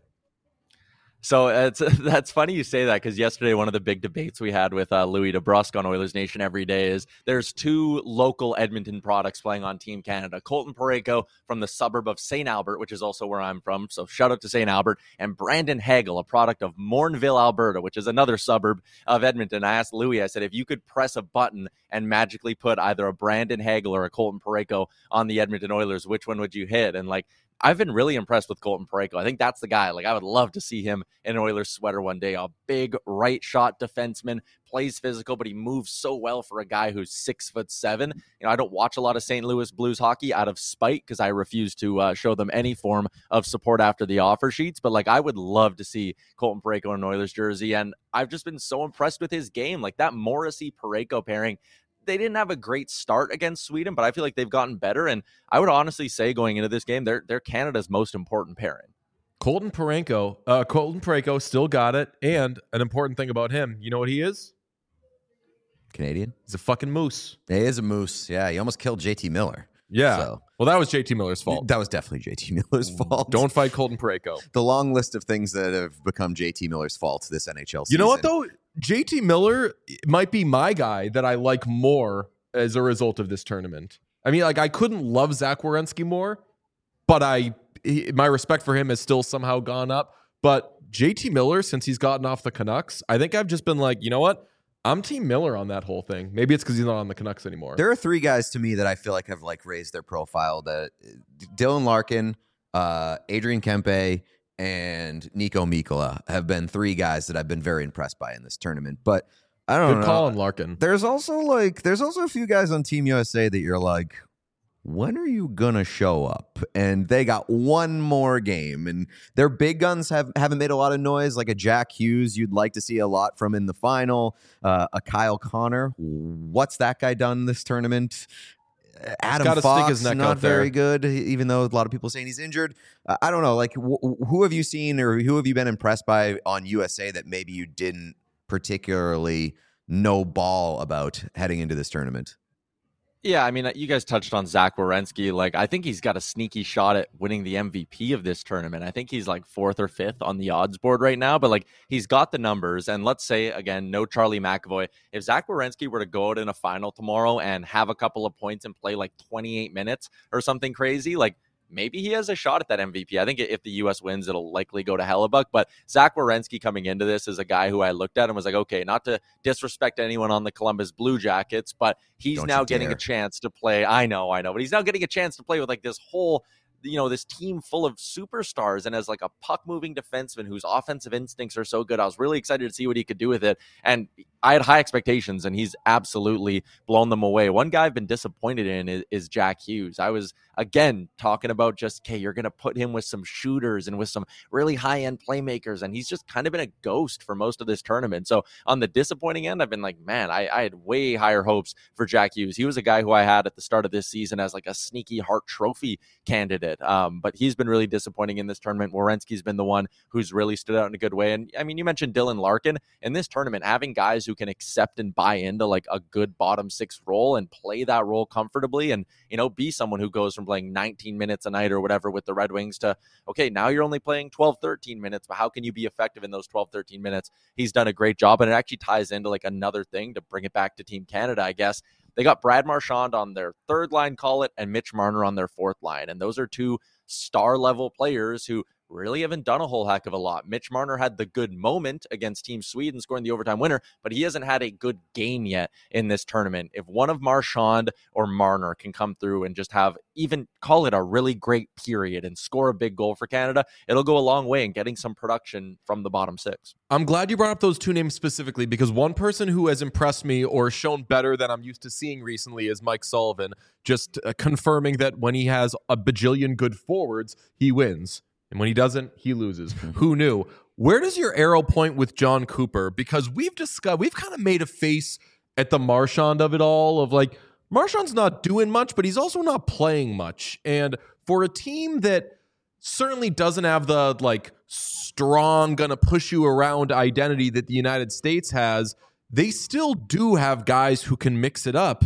So it's that's funny you say that because yesterday one of the big debates we had with uh, Louis DeBrusque on Oilers Nation Every Day is there's two local Edmonton products playing on Team Canada. Colton Parayko from the suburb of Saint Albert, which is also where I'm from, so shout out to Saint Albert, and Brandon Hagel, a product of Morinville, Alberta, which is another suburb of Edmonton. I asked Louis, I said, if you could press a button and magically put either a Brandon Hagel or a Colton Parayko on the Edmonton Oilers, which one would you hit? And like, I've been really impressed with Colton Parayko. I think that's the guy. Like, I would love to see him in an Oilers sweater one day. A big right shot defenseman, plays physical, but he moves so well for a guy who's six foot seven. You know, I don't watch a lot of Saint Louis Blues hockey out of spite because I refuse to uh, show them any form of support after the offer sheets. But like, I would love to see Colton Parayko in an Oilers jersey, and I've just been so impressed with his game. Like that Morrissey Parayko pairing. They didn't have a great start against Sweden, but I feel like they've gotten better. And I would honestly say going into this game, they're, they're Canada's most important pairing. Colton Parayko, uh, Colton Parayko still got it. And an important thing about him, you know what he is? Canadian? He's a fucking moose. He is a moose. Yeah, he almost killed J T Miller. Yeah. So. Well, that was J T Miller's fault. That was definitely J T Miller's fault. Don't fight Colton Parayko. The long list of things that have become J T Miller's fault this N H L season. You know what, though? J T Miller might be my guy that I like more as a result of this tournament. I mean, like, I couldn't love Zach Werenski more, but I he, my respect for him has still somehow gone up. But J T Miller, since he's gotten off the Canucks, I think I've just been like, you know what? I'm Team Miller on that whole thing. Maybe it's because he's not on the Canucks anymore. There are three guys to me that I feel like have like raised their profile. That Dylan Larkin, uh, Adrian Kempe, and Nico Mikkola have been three guys that I've been very impressed by in this tournament. But I don't Good know. call on Larkin. There's also like there's also a few guys on Team U S A that you're like, when are you gonna show up? And they got one more game, and their big guns have haven't made a lot of noise. Like a Jack Hughes, you'd like to see a lot from in the final. Uh, a Kyle Connor, what's that guy done this tournament? Adam gotta Fox, stick his neck not out there. very good, even though a lot of people saying he's injured. Uh, I don't know. Like, wh- who have you seen or who have you been impressed by on U S A that maybe you didn't particularly know ball about heading into this tournament? Yeah, I mean, you guys touched on Zach Werenski. Like, I think he's got a sneaky shot at winning the M V P of this tournament. I think he's like fourth or fifth on the odds board right now, but like he's got the numbers. And let's say, again, no Charlie McAvoy. If Zach Werenski were to go out in a final tomorrow and have a couple of points and play like twenty-eight minutes or something crazy, like maybe he has a shot at that M V P. I think if the U S wins, it'll likely go to Hellebuck. But Zach Werenski coming into this is a guy who I looked at and was like, okay, not to disrespect anyone on the Columbus Blue Jackets, but he's Don't now you getting dare. a chance to play. I know, I know, but he's now getting a chance to play with like this whole, you know, this team full of superstars, and as like a puck moving defenseman whose offensive instincts are so good. I was really excited to see what he could do with it. And I had high expectations, and he's absolutely blown them away. One guy I've been disappointed in is, is Jack Hughes. I was, again, talking about just, okay, you're going to put him with some shooters and with some really high-end playmakers, and he's just kind of been a ghost for most of this tournament. So on the disappointing end, I've been like, man, I, I had way higher hopes for Jack Hughes. He was a guy who I had at the start of this season as like a sneaky Hart Trophy candidate. bit. Um, but he's been really disappointing in this tournament. Werenski's been the one who's really stood out in a good way. And I mean, you mentioned Dylan Larkin. In this tournament, having guys who can accept and buy into like a good bottom six role and play that role comfortably and, you know, be someone who goes from playing nineteen minutes a night or whatever with the Red Wings to, okay, now you're only playing twelve, thirteen minutes, but how can you be effective in those twelve, thirteen minutes? He's done a great job. And it actually ties into like another thing to bring it back to Team Canada, I guess. They got Brad Marchand on their third line, call it, and Mitch Marner on their fourth line. And those are two star-level players who really haven't done a whole heck of a lot. Mitch Marner had the good moment against Team Sweden scoring the overtime winner, but he hasn't had a good game yet in this tournament. If one of Marchand or Marner can come through and just have even call it a really great period and score a big goal for Canada, it'll go a long way in getting some production from the bottom six. I'm glad you brought up those two names specifically because one person who has impressed me or shown better than I'm used to seeing recently is Mike Sullivan, just uh, confirming that when he has a bajillion good forwards, he wins. And when he doesn't, he loses. Who knew? Where does your arrow point with John Cooper? Because we've discussed, we've kind of made a face at the Marchand of it all of like, Marchand's not doing much, but he's also not playing much. And for a team that certainly doesn't have the like strong, gonna push you around identity that the United States has, they still do have guys who can mix it up,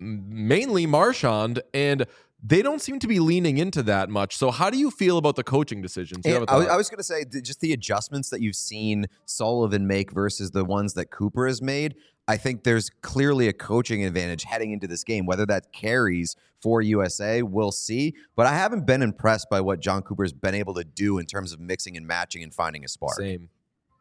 mainly Marchand, and they don't seem to be leaning into that much. So how do you feel about the coaching decisions? You have a I was, thought? I was going to say, th- just the adjustments that you've seen Sullivan make versus the ones that Cooper has made, I think there's clearly a coaching advantage heading into this game. Whether that carries for U S A, we'll see. But I haven't been impressed by what John Cooper's been able to do in terms of mixing and matching and finding a spark. Same.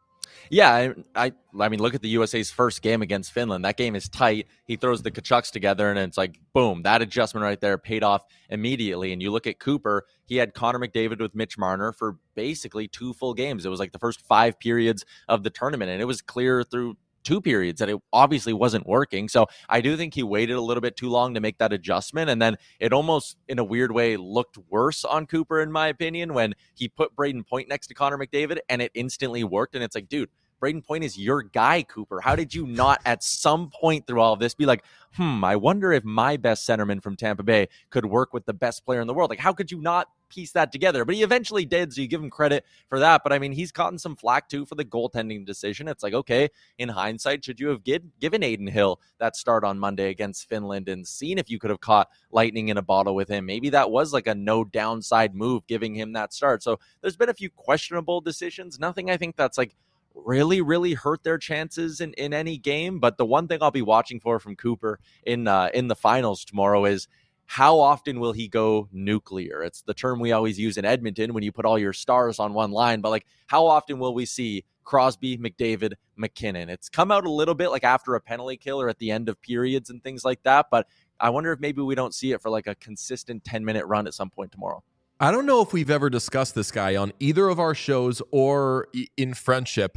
Yeah, I, I I mean, look at the U S A's first game against Finland. That game is tight. He throws the Kachucks together, and it's like, boom, that adjustment right there paid off immediately. And you look at Cooper, he had Connor McDavid with Mitch Marner for basically two full games. It was like the first five periods of the tournament, and it was clear through two periods that it obviously wasn't working. So I do think he waited a little bit too long to make that adjustment. And then it almost, in a weird way, looked worse on Cooper, in my opinion, when he put Braden Point next to Connor McDavid and it instantly worked. And it's like, dude, Braden Point is your guy, Cooper. How did you not at some point through all of this be like, hmm, I wonder if my best centerman from Tampa Bay could work with the best player in the world? Like, how could you not piece that together? But he eventually did, so you give him credit for that. But I mean, he's gotten some flack too for the goaltending decision. It's like, okay, in hindsight, should you have give, given Aiden Hill that start on Monday against Finland and seen if you could have caught lightning in a bottle with him? Maybe that was like a no downside move, giving him that start. So there's been a few questionable decisions. Nothing I think that's like really, really hurt their chances in, in any game. But the one thing I'll be watching for from Cooper in uh, in the finals tomorrow is how often will he go nuclear? It's the term we always use in Edmonton when you put all your stars on one line. But like, how often will we see Crosby, McDavid, McKinnon? It's come out a little bit like after a penalty kill or at the end of periods and things like that. But I wonder if maybe we don't see it for like a consistent ten-minute run at some point tomorrow. I don't know if we've ever discussed this guy on either of our shows or in friendship.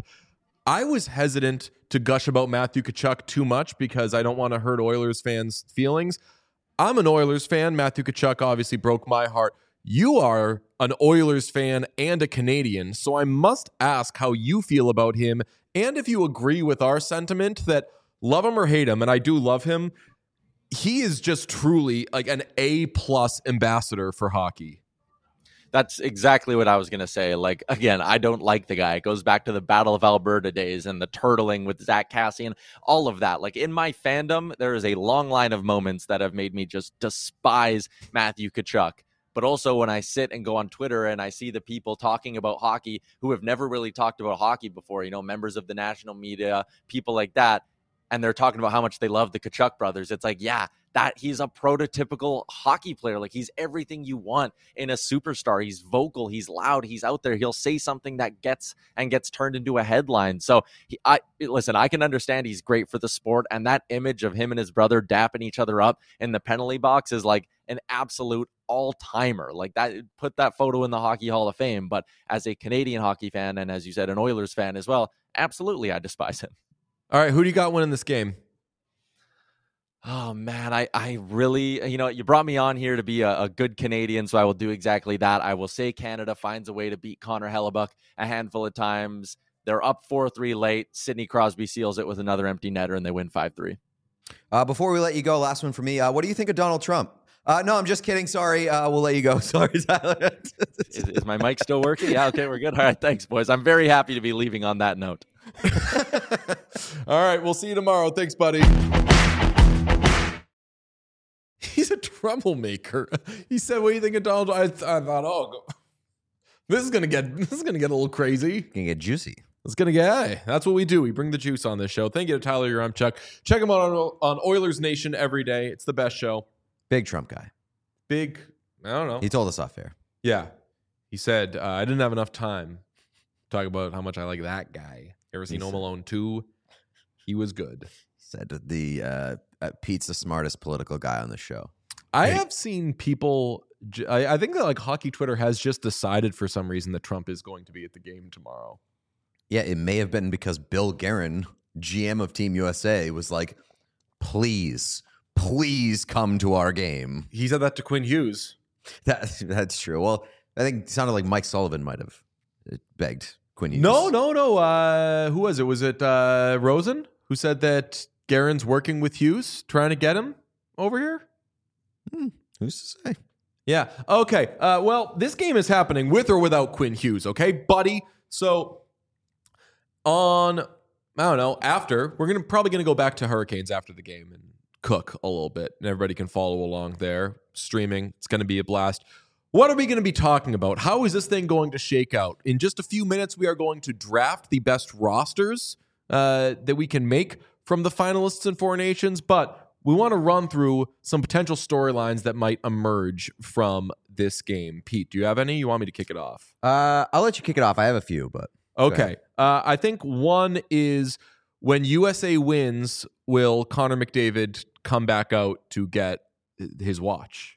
I was hesitant to gush about Matthew Tkachuk too much because I don't want to hurt Oilers fans' feelings. I'm an Oilers fan. Matthew Tkachuk obviously broke my heart. You are an Oilers fan and a Canadian, so I must ask how you feel about him and if you agree with our sentiment that love him or hate him, and I do love him, he is just truly like an A-plus ambassador for hockey. That's exactly what I was going to say. Like, again, I don't like the guy. It goes back to the Battle of Alberta days and the turtling with Zach Cassian, all of that. Like, in my fandom, there is a long line of moments that have made me just despise Matthew Tkachuk. But also when I sit and go on Twitter and I see the people talking about hockey who have never really talked about hockey before, you know, members of the national media, people like that, and they're talking about how much they love the Tkachuk brothers. It's like, yeah, that he's a prototypical hockey player. Like, he's everything you want in a superstar. He's vocal, he's loud, he's out there. He'll say something that gets and gets turned into a headline. So he, I listen, I can understand he's great for the sport, and that image of him and his brother dapping each other up in the penalty box is like an absolute all-timer. Like, that, put that photo in the Hockey Hall of Fame. But as a Canadian hockey fan, and as you said, an Oilers fan as well, absolutely I despise him. All right, who do you got winning this game? Oh, man, I, I really, you know, you brought me on here to be a, a good Canadian, so I will do exactly that. I will say Canada finds a way to beat Connor Hellebuyck a handful of times. They're up four three late. Sidney Crosby seals it with another empty netter, and they win five three. Uh, before we let you go, last one for me. Uh, what do you think of Donald Trump? Uh, no, I'm just kidding. Sorry. Uh, we'll let you go. Sorry, Tyler. Is, is my mic still working? Yeah, okay, we're good. All right, thanks, boys. I'm very happy to be leaving on that note. All right, we'll see you tomorrow. Thanks, buddy. He's a troublemaker. He said, "What do you think of Donald?" I, th- I thought, "Oh, go- this is gonna get this is gonna get a little crazy. Can get juicy. It's gonna get. Hey, that's what we do. We bring the juice on this show. Thank you to Tyler Yaremchuk. Check him out on, on Oilers Nation every day. It's the best show. Big Trump guy. Big. I don't know. He told us off air. Yeah, he said uh, I didn't have enough time to talk about how much I like that guy. Ever seen He Home said- Alone two? He was good. Said the uh, uh, Pete's the smartest political guy on the show. I Hey. have seen people. j- I, I think that like hockey Twitter has just decided for some reason that Trump is going to be at the game tomorrow. Yeah, it may have been because Bill Guerin, G M of Team U S A, was like, please, please come to our game. He said that to Quinn Hughes. That, that's true. Well, I think it sounded like Mike Sullivan might have begged Quinn Hughes. No, no, no. Uh, who was it? Was it uh, Rosen who said that Guerin's working with Hughes, trying to get him over here? Hmm, who's to say? Yeah. Okay. Uh, well, this game is happening with or without Quinn Hughes. Okay, buddy. So on, I don't know. After we're gonna probably gonna go back to Hurricanes after the game and cook a little bit, and everybody can follow along there streaming. It's gonna be a blast. What are we going to be talking about? How is this thing going to shake out? In just a few minutes, we are going to draft the best rosters uh, that we can make from the finalists in Four Nations, but we want to run through some potential storylines that might emerge from this game. Pete, do you have any? You want me to kick it off? Uh, I'll let you kick it off. I have a few, but Okay. Uh, I think one is when U S A wins, will Connor McDavid come back out to get his watch?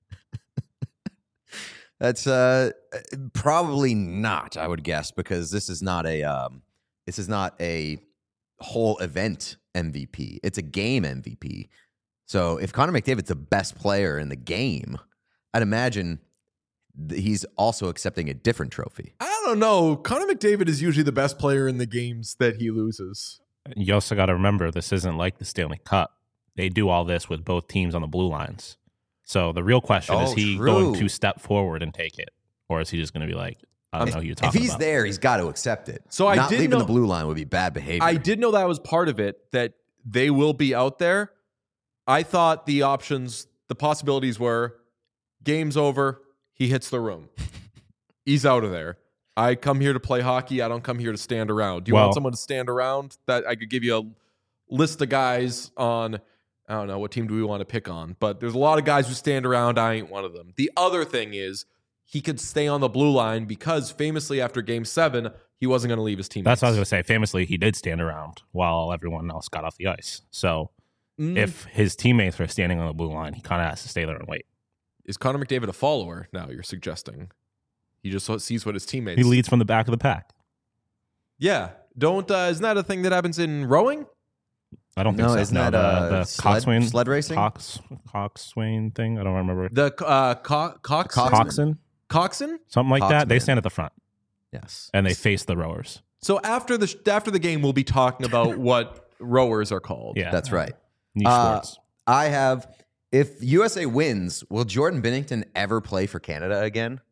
that's uh, probably not. I would guess because this is not a um, this is not a whole event M V P. It's a game M V P. So if Connor McDavid's the best player in the game, I'd imagine th- he's also accepting a different trophy. I don't know. Connor McDavid is usually the best player in the games that he loses. You also got to remember this isn't like the Stanley Cup. They do all this with both teams on the blue lines. So the real question is Oh, he true. going to step forward and take it, or is he just going to be like, I don't If, know who you're if talking he's about? there, he's got to accept it. So I not did leaving know- the blue line would be bad behavior. I did know that was part of it, that they will be out there. I thought the options, the possibilities were game's over, he hits the room. He's out of there. I come here to play hockey. I don't come here to stand around. Do you Well- want someone to stand around? That I could give you a list of guys on, I don't know, what team do we want to pick on? But there's a lot of guys who stand around. I ain't one of them. The other thing is he could stay on the blue line because famously after game seven, he wasn't going to leave his teammates. That's what I was going to say. Famously, he did stand around while everyone else got off the ice. So Mm. if his teammates are standing on the blue line, he kind of has to stay there and wait. Is Connor McDavid a follower now, you're suggesting? He just sees what his teammates... He leads from the back of the pack. Yeah. Don't, uh, isn't that a thing that happens in rowing? I don't think No, so. isn't no, that the, uh, the sled, coxswain, sled racing? cox, coxswain thing. I don't remember. The uh, co- cox- Coxswain. Coxswain, coxswain? something like that. They Coxman. stand at the front Yes. and they face the rowers. So after the after the game, we'll be talking about what rowers are called. Yeah, That's right. Niche Uh, sports. I have. If U S A wins, will Jordan Binnington ever play for Canada again?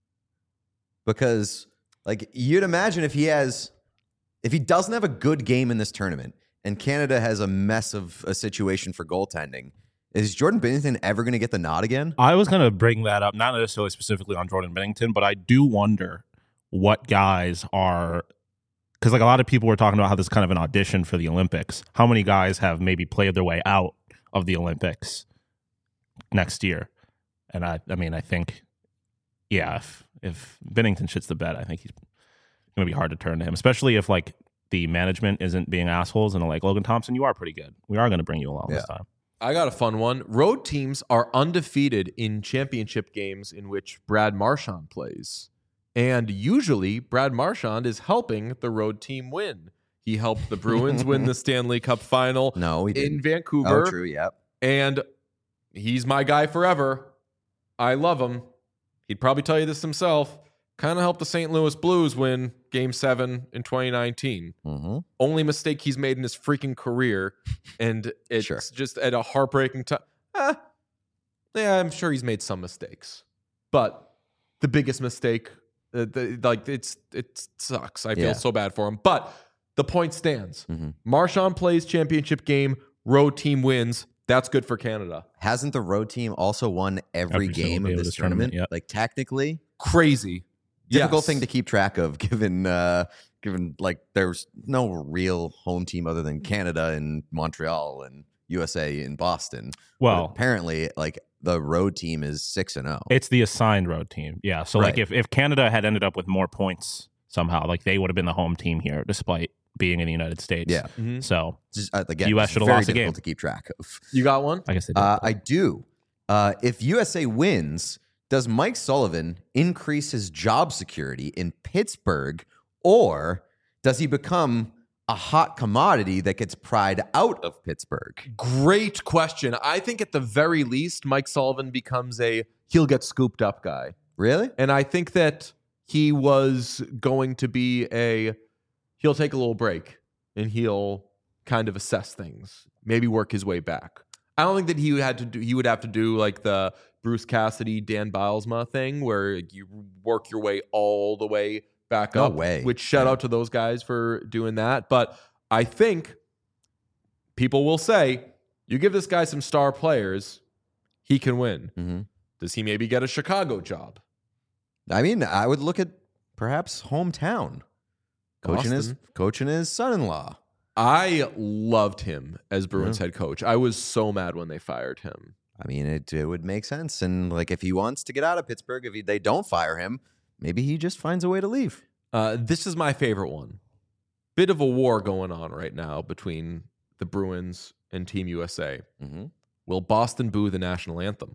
Because, like, you'd imagine if he has, if he doesn't have a good game in this tournament, and Canada has a mess of a situation for goaltending, is Jordan Binnington ever going to get the nod again? I was going to bring that up, not necessarily specifically on Jordan Binnington, but I do wonder what guys are, because like a lot of people were talking about how this is kind of an audition for the Olympics. How many guys have maybe played their way out of the Olympics next year? And I, I mean, I think, yeah, if if Binnington shits the bed, I think he's going to be hard to turn to him, especially if like the management isn't being assholes and are like, Logan Thompson, you are pretty good. We are going to bring you along this Yeah. time. I got a fun one. Road teams are undefeated in championship games in which Brad Marchand plays. And usually Brad Marchand is helping the road team win. He helped the Bruins win the Stanley Cup final No, he didn't. in Vancouver. Oh, true. Yep. And he's my guy forever. I love him. He'd probably tell you this himself. Kind of helped the Saint Louis Blues win Game seven in twenty nineteen. Mm-hmm. Only mistake he's made in his freaking career. And it's Sure. just at a heartbreaking time. Ah, yeah, I'm sure he's made some mistakes, but the biggest mistake, uh, the, like it's it sucks. I feel Yeah. so bad for him, but the point stands. Mhm. Marchand plays championship game, road team wins. That's good for Canada. Hasn't the road team also won every, Every single game game of of this this tournament, tournament? yeah. Like technically, Crazy. difficult Yes. thing to keep track of, given uh, given like there's no real home team other than Canada and Montreal and U S A in Boston. But Well, apparently, like the road team is six and zero. it's the assigned road team. Yeah. So, like, Right. if, if Canada had ended up with more points somehow, like, they would have been the home team here, despite being in the United States. Yeah, Mhm. So, just, uh, again, U S it's should have very lost the difficult game. to keep track of. You got one? I guess they did. Uh, I do. Uh, if U S A wins, does Mike Sullivan increase his job security in Pittsburgh, or does he become a hot commodity that gets pried out of Pittsburgh? Great question. I think at the very least, Mike Sullivan becomes a he'll get scooped up guy. Really? And I think that he was going to be a he'll take a little break and he'll kind of assess things, maybe work his way back. I don't think that he had to do he would have to do like the Bruce Cassidy, Dan Bilesma thing where you work your way all the way back No up. way. Which shout Yeah. out to those guys for doing that. But I think people will say, you give this guy some star players, he can win. Mm-hmm. Does he maybe get a Chicago job? I mean, I would look at perhaps hometown. Coaching his, Boston. coaching his son-in-law. I loved him as Bruins Yeah. head coach. I was so mad when they fired him. I mean, it, it would make sense. And like, if he wants to get out of Pittsburgh, if he, they don't fire him, maybe he just finds a way to leave. Uh, this is my favorite one. Bit of a war going on right now between the Bruins and Team U S A. Mm-hmm. Will Boston boo the national anthem?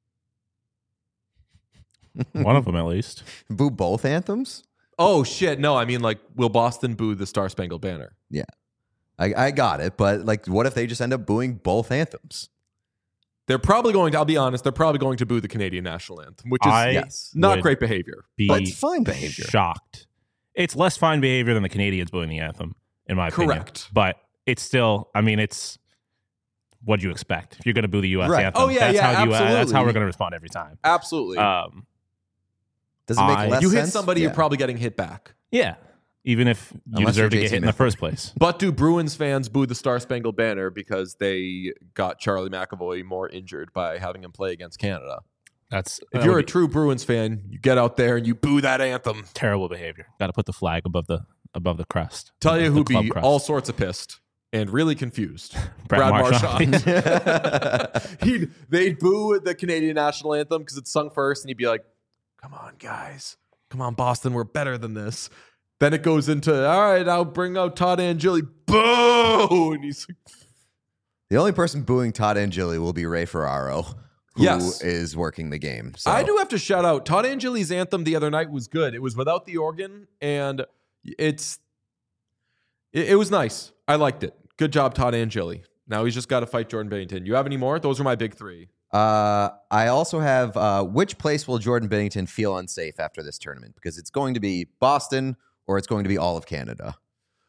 One of them, at least. Boo both anthems? Oh, shit. No, I mean, like, will Boston boo the Star Spangled Banner? I, I got it. But like, what if they just end up booing both anthems? They're probably going to, I'll be honest, they're probably going to boo the Canadian national anthem, which is I Yes. not would great behavior. Be But it's fine behavior. shocked. It's less fine behavior than the Canadians booing the anthem, in my opinion. Correct. But it's still, I mean, it's what do you expect if you're going to boo the U S Right. anthem? Oh, yeah, that's yeah, how you, uh, that's how absolutely. we're going to respond every time. Absolutely. Um, Does it make I- less you hit sense? somebody, Yeah. you're probably getting hit back. yeah, even if you Unless deserve to you're get J C hit in the Smith. first place. But do Bruins fans boo the Star Spangled Banner because they got Charlie McAvoy more injured by having him play against Canada? That's If that you're would a be true Bruins fan, you get out there and you boo that anthem. terrible behavior. Got to put the flag above the above the crest. Tell you The who'd club be crest. all sorts of pissed and really confused. Brad Marchand. Marchand. He'd they'd boo the Canadian national anthem because it's sung first, and he'd be like, "Come on, guys, come on, Boston, we're better than this." Then it goes into, "All right, I'll bring out Todd Angeli." Boo! And he's like, The only person booing Todd Angeli will be Ray Ferraro, who Yes. is working the game. So. I do have to shout out Todd Angeli's anthem the other night was good. It was without the organ, and it's it, it was nice. I liked it. Good job, Todd Angeli. Now he's just got to fight Jordan Bennington. You have any more? Those are my big three. Uh, I also have uh, which place will Jordan Bennington feel unsafe after this tournament? Because it's going to be Boston or it's going to be all of Canada.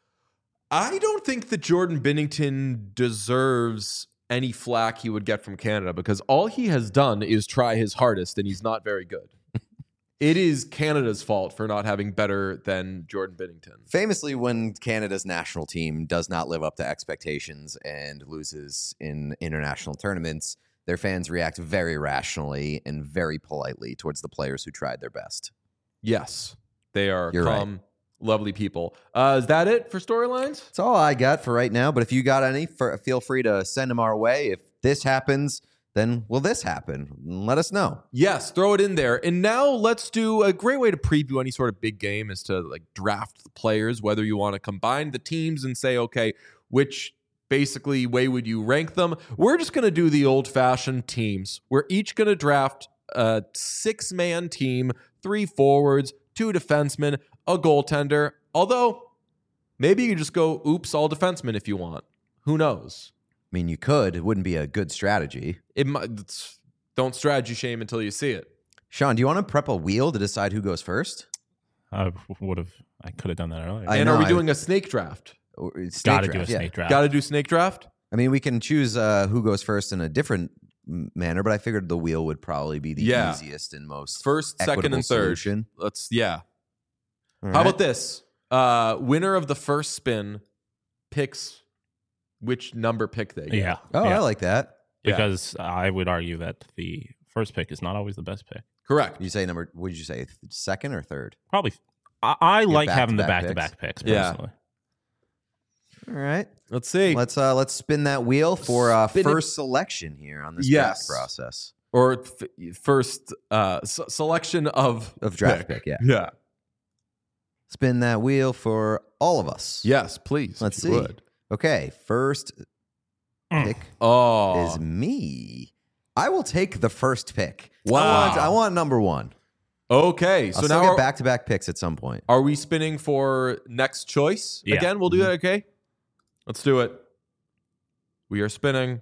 I don't think that Jordan Bennington deserves any flack he would get from Canada because all he has done is try his hardest, and he's not very good. It is Canada's fault for not having better than Jordan Bennington. Famously, when Canada's national team does not live up to expectations and loses in international tournaments, their fans react very rationally and very politely towards the players who tried their best. Yes, they are You're calm, right. lovely people. Uh, is that it for storylines? That's all I got for right now. But if you got any, for, feel free to send them our way. If this happens, then will this happen? Let us know. Yes, throw it in there. And now let's do a great way to preview any sort of big game is to like draft the players, whether you want to combine the teams and say, okay, which basically way would you rank them? We're just going to do the old fashioned teams. We're each going to draft a six man team, three forwards, two defensemen, a goaltender. Although maybe you just go, oops, all defensemen if you want. Who knows? I mean, you could. It wouldn't be a good strategy. It might, it's, don't strategy shame until you see it. Sean, do you want to prep a wheel to decide who goes first? I would have. I could have done that earlier. I and know, are we I- doing a snake draft? Or- snake Got to do a draft, yeah. snake draft. Got to do snake draft? I mean, we can choose uh, who goes first in a different manner, but I figured the wheel would probably be the Yeah. easiest and most First, second, equitable and third. solution. Let's yeah. All How right. about this? Uh, winner of the first spin picks which number pick they get. Yeah. Oh, yeah. I like that. Yeah. Because I would argue that the first pick is not always the best pick. Correct. You say number? What did you say? Second or third? Probably. I, I like having the back-to-back back-to-back picks, Yeah. personally. All right. Let's see. Let's uh let's spin that wheel for uh Spin it. first selection here on this Yes. draft process or f- first uh, s- selection of of draft pick. Yeah. Yeah. Spin that wheel for all of us. Yes, please. Let's if you see. would. Okay. First Mm. pick Oh. is me. I will take the first pick. Wow. I want, I want number one. Okay. So So I'll now still are, get back to back picks at some point. are we spinning for next choice? Yeah. Again, we'll do that, okay? Let's do it. We are spinning.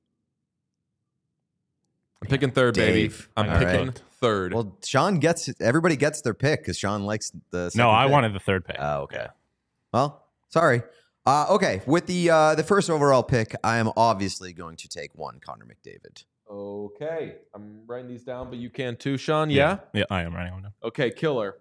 I'm picking third, Dave. baby. I'm All picking right. third. Well, Sean gets everybody gets their pick because Sean likes the. No, second I pick. wanted the third pick. Oh, okay. Well, sorry. Uh, okay, with the uh, the first overall pick, I am obviously going to take one Connor McDavid. Okay. I'm writing these down, but you can too, Sean. Yeah? Yeah, I am writing them down. Okay, killer.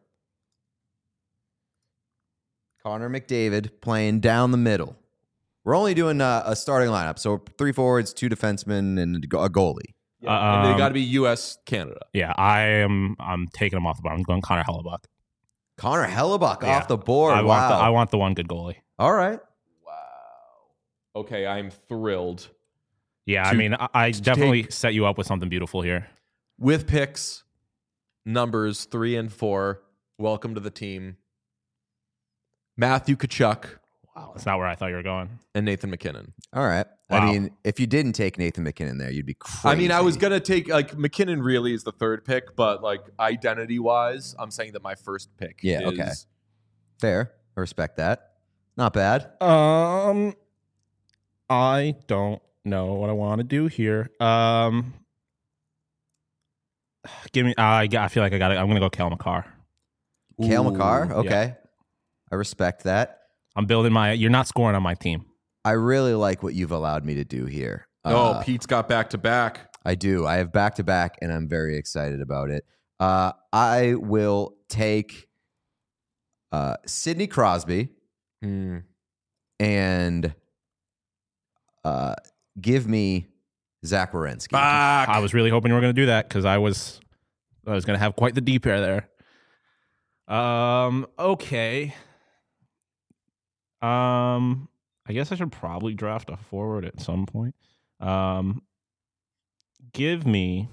Connor McDavid playing down the middle. We're only doing uh, a starting lineup, so three forwards, two defensemen, and a go- a goalie. Yeah. and they Um, got to be U S, Canada. Yeah, I am. I'm taking him off the board. I'm going Connor Hellebuck. Connor Hellebuck Yeah. off the board. I wow. want. The, I want the one good goalie. All right. Wow. Okay, I'm thrilled. Yeah, I To- mean, I, I to definitely take- set you up with something beautiful here. With picks, numbers three and four, welcome to the team. Matthew Tkachuk Wow, that's not where I thought you were going. and Nathan McKinnon. All right. I Wow. mean, if you didn't take Nathan McKinnon there, you'd be crazy. I mean, I was gonna take like McKinnon really is the third pick, but like identity wise, I'm saying that my first pick. Yeah, is, okay. Fair. I respect that. Not bad. Um, I don't know what I want to do here. Um, give me. I I feel like I got it. I'm gonna go Kale McCarr. Kale Ooh, McCarr. Okay. I respect that. I'm building my. You're not scoring on my team. I really like what you've allowed me to do here. Oh, Uh, Pete's got back to back. I do. I have back to back, and I'm very excited about it. Uh, I will take uh, Sidney Crosby Hmm. and uh, give me Zach Werenski. Back. I was really hoping you were gonna do that because I was. I was gonna have quite the deep pair there. Um. Okay. Um. I guess I should probably draft a forward at some point. Um. Give me.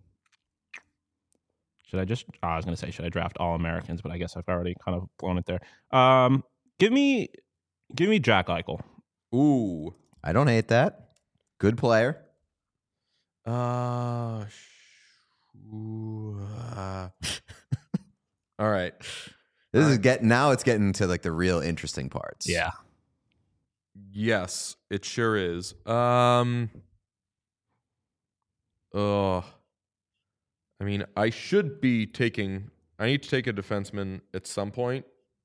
Should I just? Oh, I was gonna say, should I draft all Americans? But I guess I've already kind of blown it there. Um. Give me. Give me Jack Eichel. Ooh. I don't hate that. Good player. Uh, sh- ooh, uh. All right. This is getting now. It's getting to like the real interesting parts. Yeah. Yes, it sure is. Um. Oh. I mean, I should be taking. I need to take a defenseman at some point,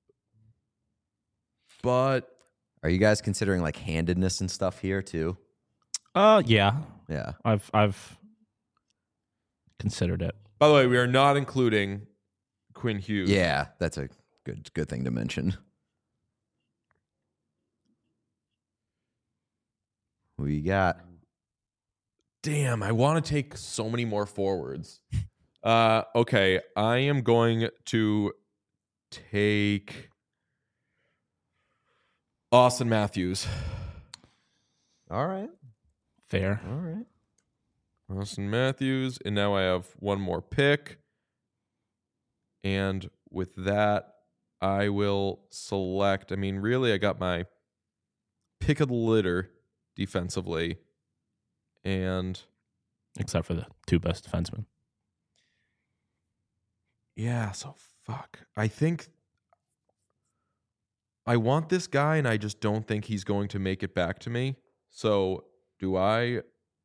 but Are you guys considering like handedness and stuff here too? Uh. Yeah. Yeah. I've I've considered it. by the way, we are not including Quinn Hughes. Yeah. That's a good good thing to mention. Who you got? Damn, I want to take so many more forwards. Uh, okay, I am going to take Austin Matthews. All right. Fair. All right. Austin Matthews, and now I have one more pick. And with that, I will select. I mean, really, I got my pick of the litter defensively. And Except for the two best defensemen. yeah, so fuck. I think I want this guy, and I just don't think he's going to make it back to me. So do I?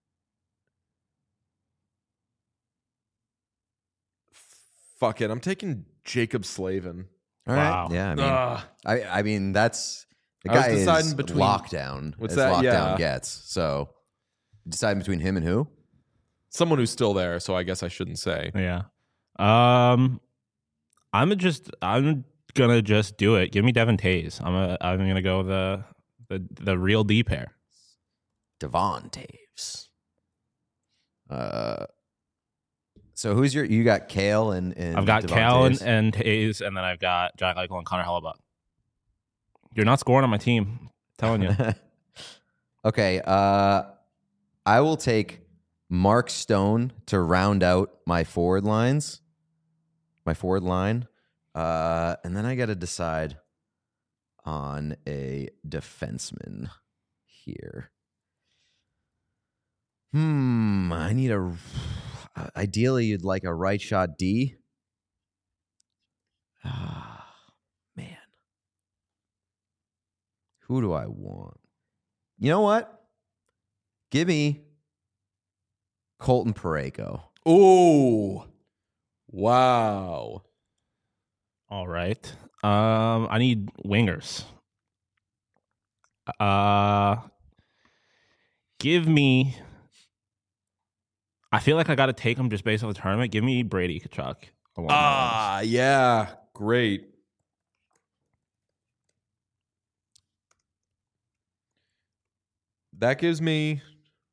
Fuck it. I'm taking Jacob Slavin. All right. Wow. Yeah. I mean, Ugh. I, I mean, that's the I was guy is deciding between- lockdown What's as that? lockdown Yeah. gets. So deciding between him and who? someone who's still there, so I guess I shouldn't say. Yeah. Um, I'm just I'm gonna just do it. Give me Devin Taves. I'm a, I'm gonna go the the the real D pair. Devon Taves. Uh, so who's your? You got Kale and, and I've got Devon Cal and, Taves? and Taves, and then I've got Jack Eichel and Connor Hellebuck. You're not scoring on my team. I'm telling you. Okay. Uh, I will take Mark Stone to round out my forward lines, my forward line, uh, and then I got to decide on a defenseman here. Hmm. I need a. Ideally, you'd like a right shot D. Ah, man. Who do I want? You know what? Give me Colton Parayko. Oh, wow. All right. Um, I need wingers. Uh, give me. I feel like I got to take him just based on the tournament. Give me Brady Tkachuk. along the lines. Ah, yeah. Great. That gives me.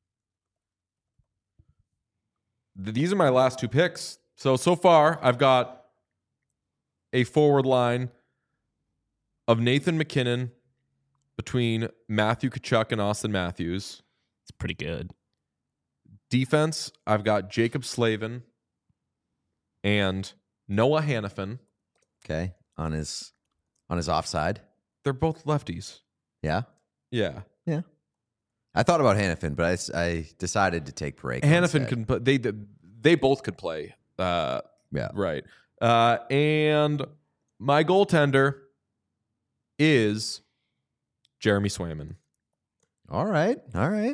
th- These are my last two picks. So, so far, I've got a forward line of Nathan McKinnon between Matthew Tkachuk and Austin Matthews. It's pretty good. Defense, I've got Jacob Slavin and Noah Hannafin. Okay, on his on his offside. They're both lefties. Yeah, Yeah. I thought about Hannafin, but I, s- I decided to take Parayko. Hannafin instead. can play. They they both could play. Uh, Yeah. right. Uh, and my goaltender is Jeremy Swayman. All right, all right.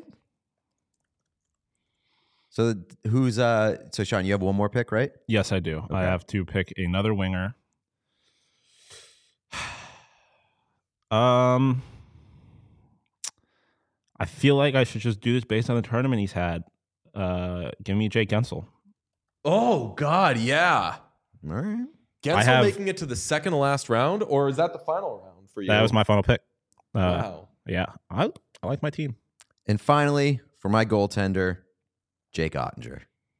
So th- who's uh? So Sean, you have one more pick, right? Yes, I do. I Okay. have to pick another winger. Um, I feel like I should just do this based on the tournament he's had. Uh, give me Jake Gensel. Oh God, yeah. All right. Gensel I have- making it to the second to last round, or is that the final round for you? That was my final pick. Uh, wow. Yeah, I I like my team. And finally, for my goaltender, Jake Ottinger.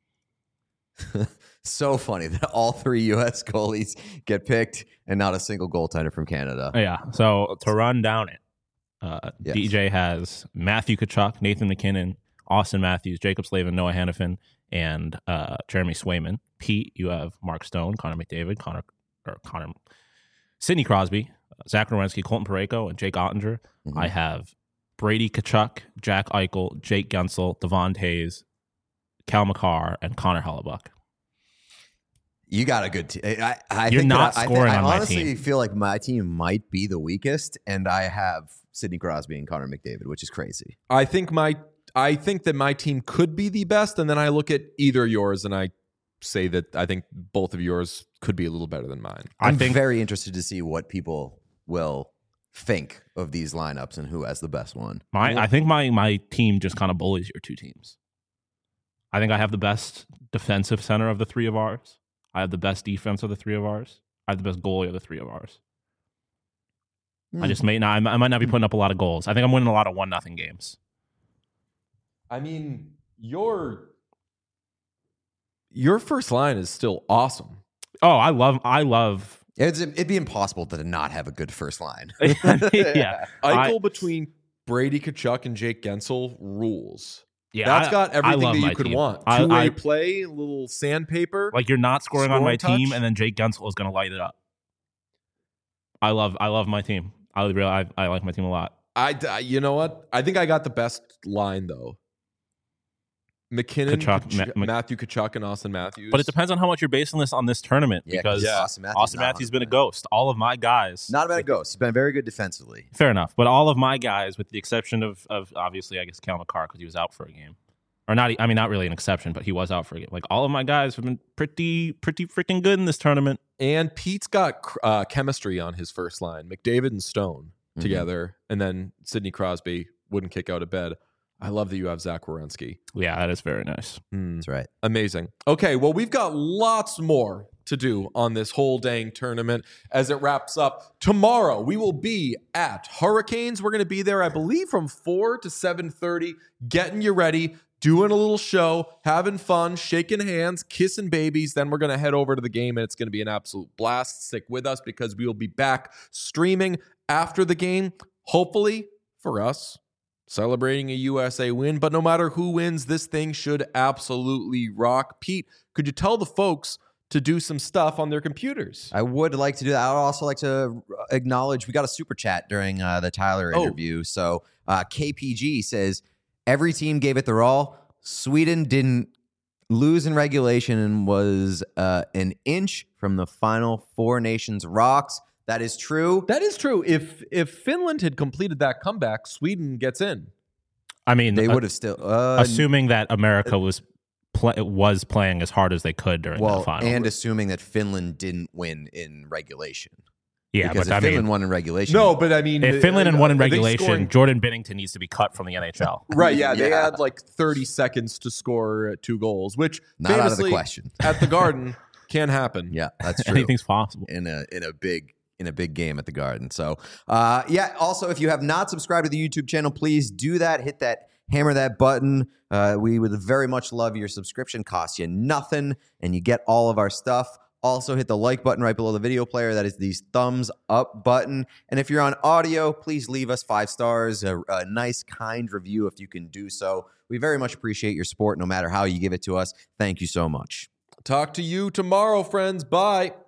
So funny that all three U S goalies get picked and not a single goaltender from Canada. Yeah. So to run down it, uh, Yes. D J has Matthew Tkachuk, Nathan McKinnon, Austin Matthews, Jacob Slavin, Noah Hannafin, and uh, Jeremy Swayman. Pete, you have Mark Stone, Connor McDavid, Connor or Connor, Sidney Crosby, Zach Werenski, Colton Parayko, and Jake Ottinger. Mhm. I have Brady Tkachuk, Jack Eichel, Jake Gensel, Devon Taves, Cal McCarr, and Connor Hellebuck. You got a good team. I, I You're think not that I, scoring I, think, on I my honestly team. feel like my team might be the weakest, and I have Sidney Crosby and Connor McDavid, which is crazy. I think my I think that my team could be the best, and then I look at either yours and I say that I think both of yours could be a little better than mine. I I'm think very interested to see what people will think of these lineups and who has the best one. my I think my my team just kind of bullies your two teams. I think I have the best defensive center of the three of ours. I have the best defense of the three of ours. I have the best goalie of the three of ours. I just may not. I might not be putting up a lot of goals. I think I'm winning a lot of one nothing games. I mean, your your first line is still awesome. Oh, I love. I love. It's, it'd be impossible to not have a good first line. yeah, Eichel I- between Brady Tkachuk and Jake Gensel rules. yeah. That's I- got I everything love that you my could team. want. I- Two-way I- play, a little sandpaper. Like you're not scoring on my Scoring team, touch? and then Jake Gensel is going to light it up. I love. I love my team. I really. I, I like my team a lot. I, I- you know what? I think I got the best line though. McKinnon, Tkachuk, Tkach- Ma- Ma- Matthew Tkachuk, and Austin Matthews. But it depends on how much you're basing this on this tournament Yeah, because Yeah. Austin Matthews, Austin not Matthews has been a one hundred percent. ghost. All of my guys, Not about a ghost. He's been very good defensively. fair enough, but all of my guys, with the exception of of obviously, I guess Cal McCarr because he was out for a game, or not. I mean, not really an exception, but he was out for a game. Like all of my guys have been pretty, pretty freaking good in this tournament. And Pete's got uh, chemistry on his first line. McDavid and Stone Mhm. together, and then Sidney Crosby wouldn't kick out of bed. I love that you have Zach Werenski. Yeah, that is very nice. Mm, That's right. amazing. Okay, well, we've got lots more to do on this whole dang tournament as it wraps up. Tomorrow, we will be at Hurricanes. We're going to be there, I believe, from four to seven thirty, getting you ready, doing a little show, having fun, shaking hands, kissing babies. Then we're going to head over to the game, and it's going to be an absolute blast. Stick with us because we will be back streaming after the game, hopefully for us, celebrating a U S A win. But no matter who wins, this thing should absolutely rock. Pete, could you tell the folks to do some stuff on their computers? I would like to do that. I would also like to acknowledge we got a super chat during uh, the Tyler Oh. interview. So uh, K P G says, every team gave it their all. Sweden didn't lose in regulation and was uh, an inch from the final Four Nations rocks. That is true. That is true. If if Finland had completed that comeback, Sweden gets in. I mean, They uh, would have still uh, assuming that America was pl- was playing as hard as they could during well, the final. and assuming that Finland didn't win in regulation. yeah, because but if I Finland mean, won in regulation, No, but I mean, if Finland had won in are they regulation, scoring- Jordan Binnington needs to be cut from the N H L. right? Yeah, they Yeah. had like thirty seconds to score two goals, which not out of the famously question. at the Garden can happen. Yeah, that's true. Anything's possible. in a in a big in a big game at the Garden. So uh yeah, also if you have not subscribed to the YouTube channel, please do that. Hit that hammer that button. Uh we would very much love your subscription. Costs you nothing and you get all of our stuff. Also hit the like button right below the video player. That is the thumbs up button. And if you're on audio, please leave us five stars, a, a nice kind review if you can do so. We very much appreciate your support no matter how you give it to us. Thank you so much. Talk to you tomorrow, friends. Bye.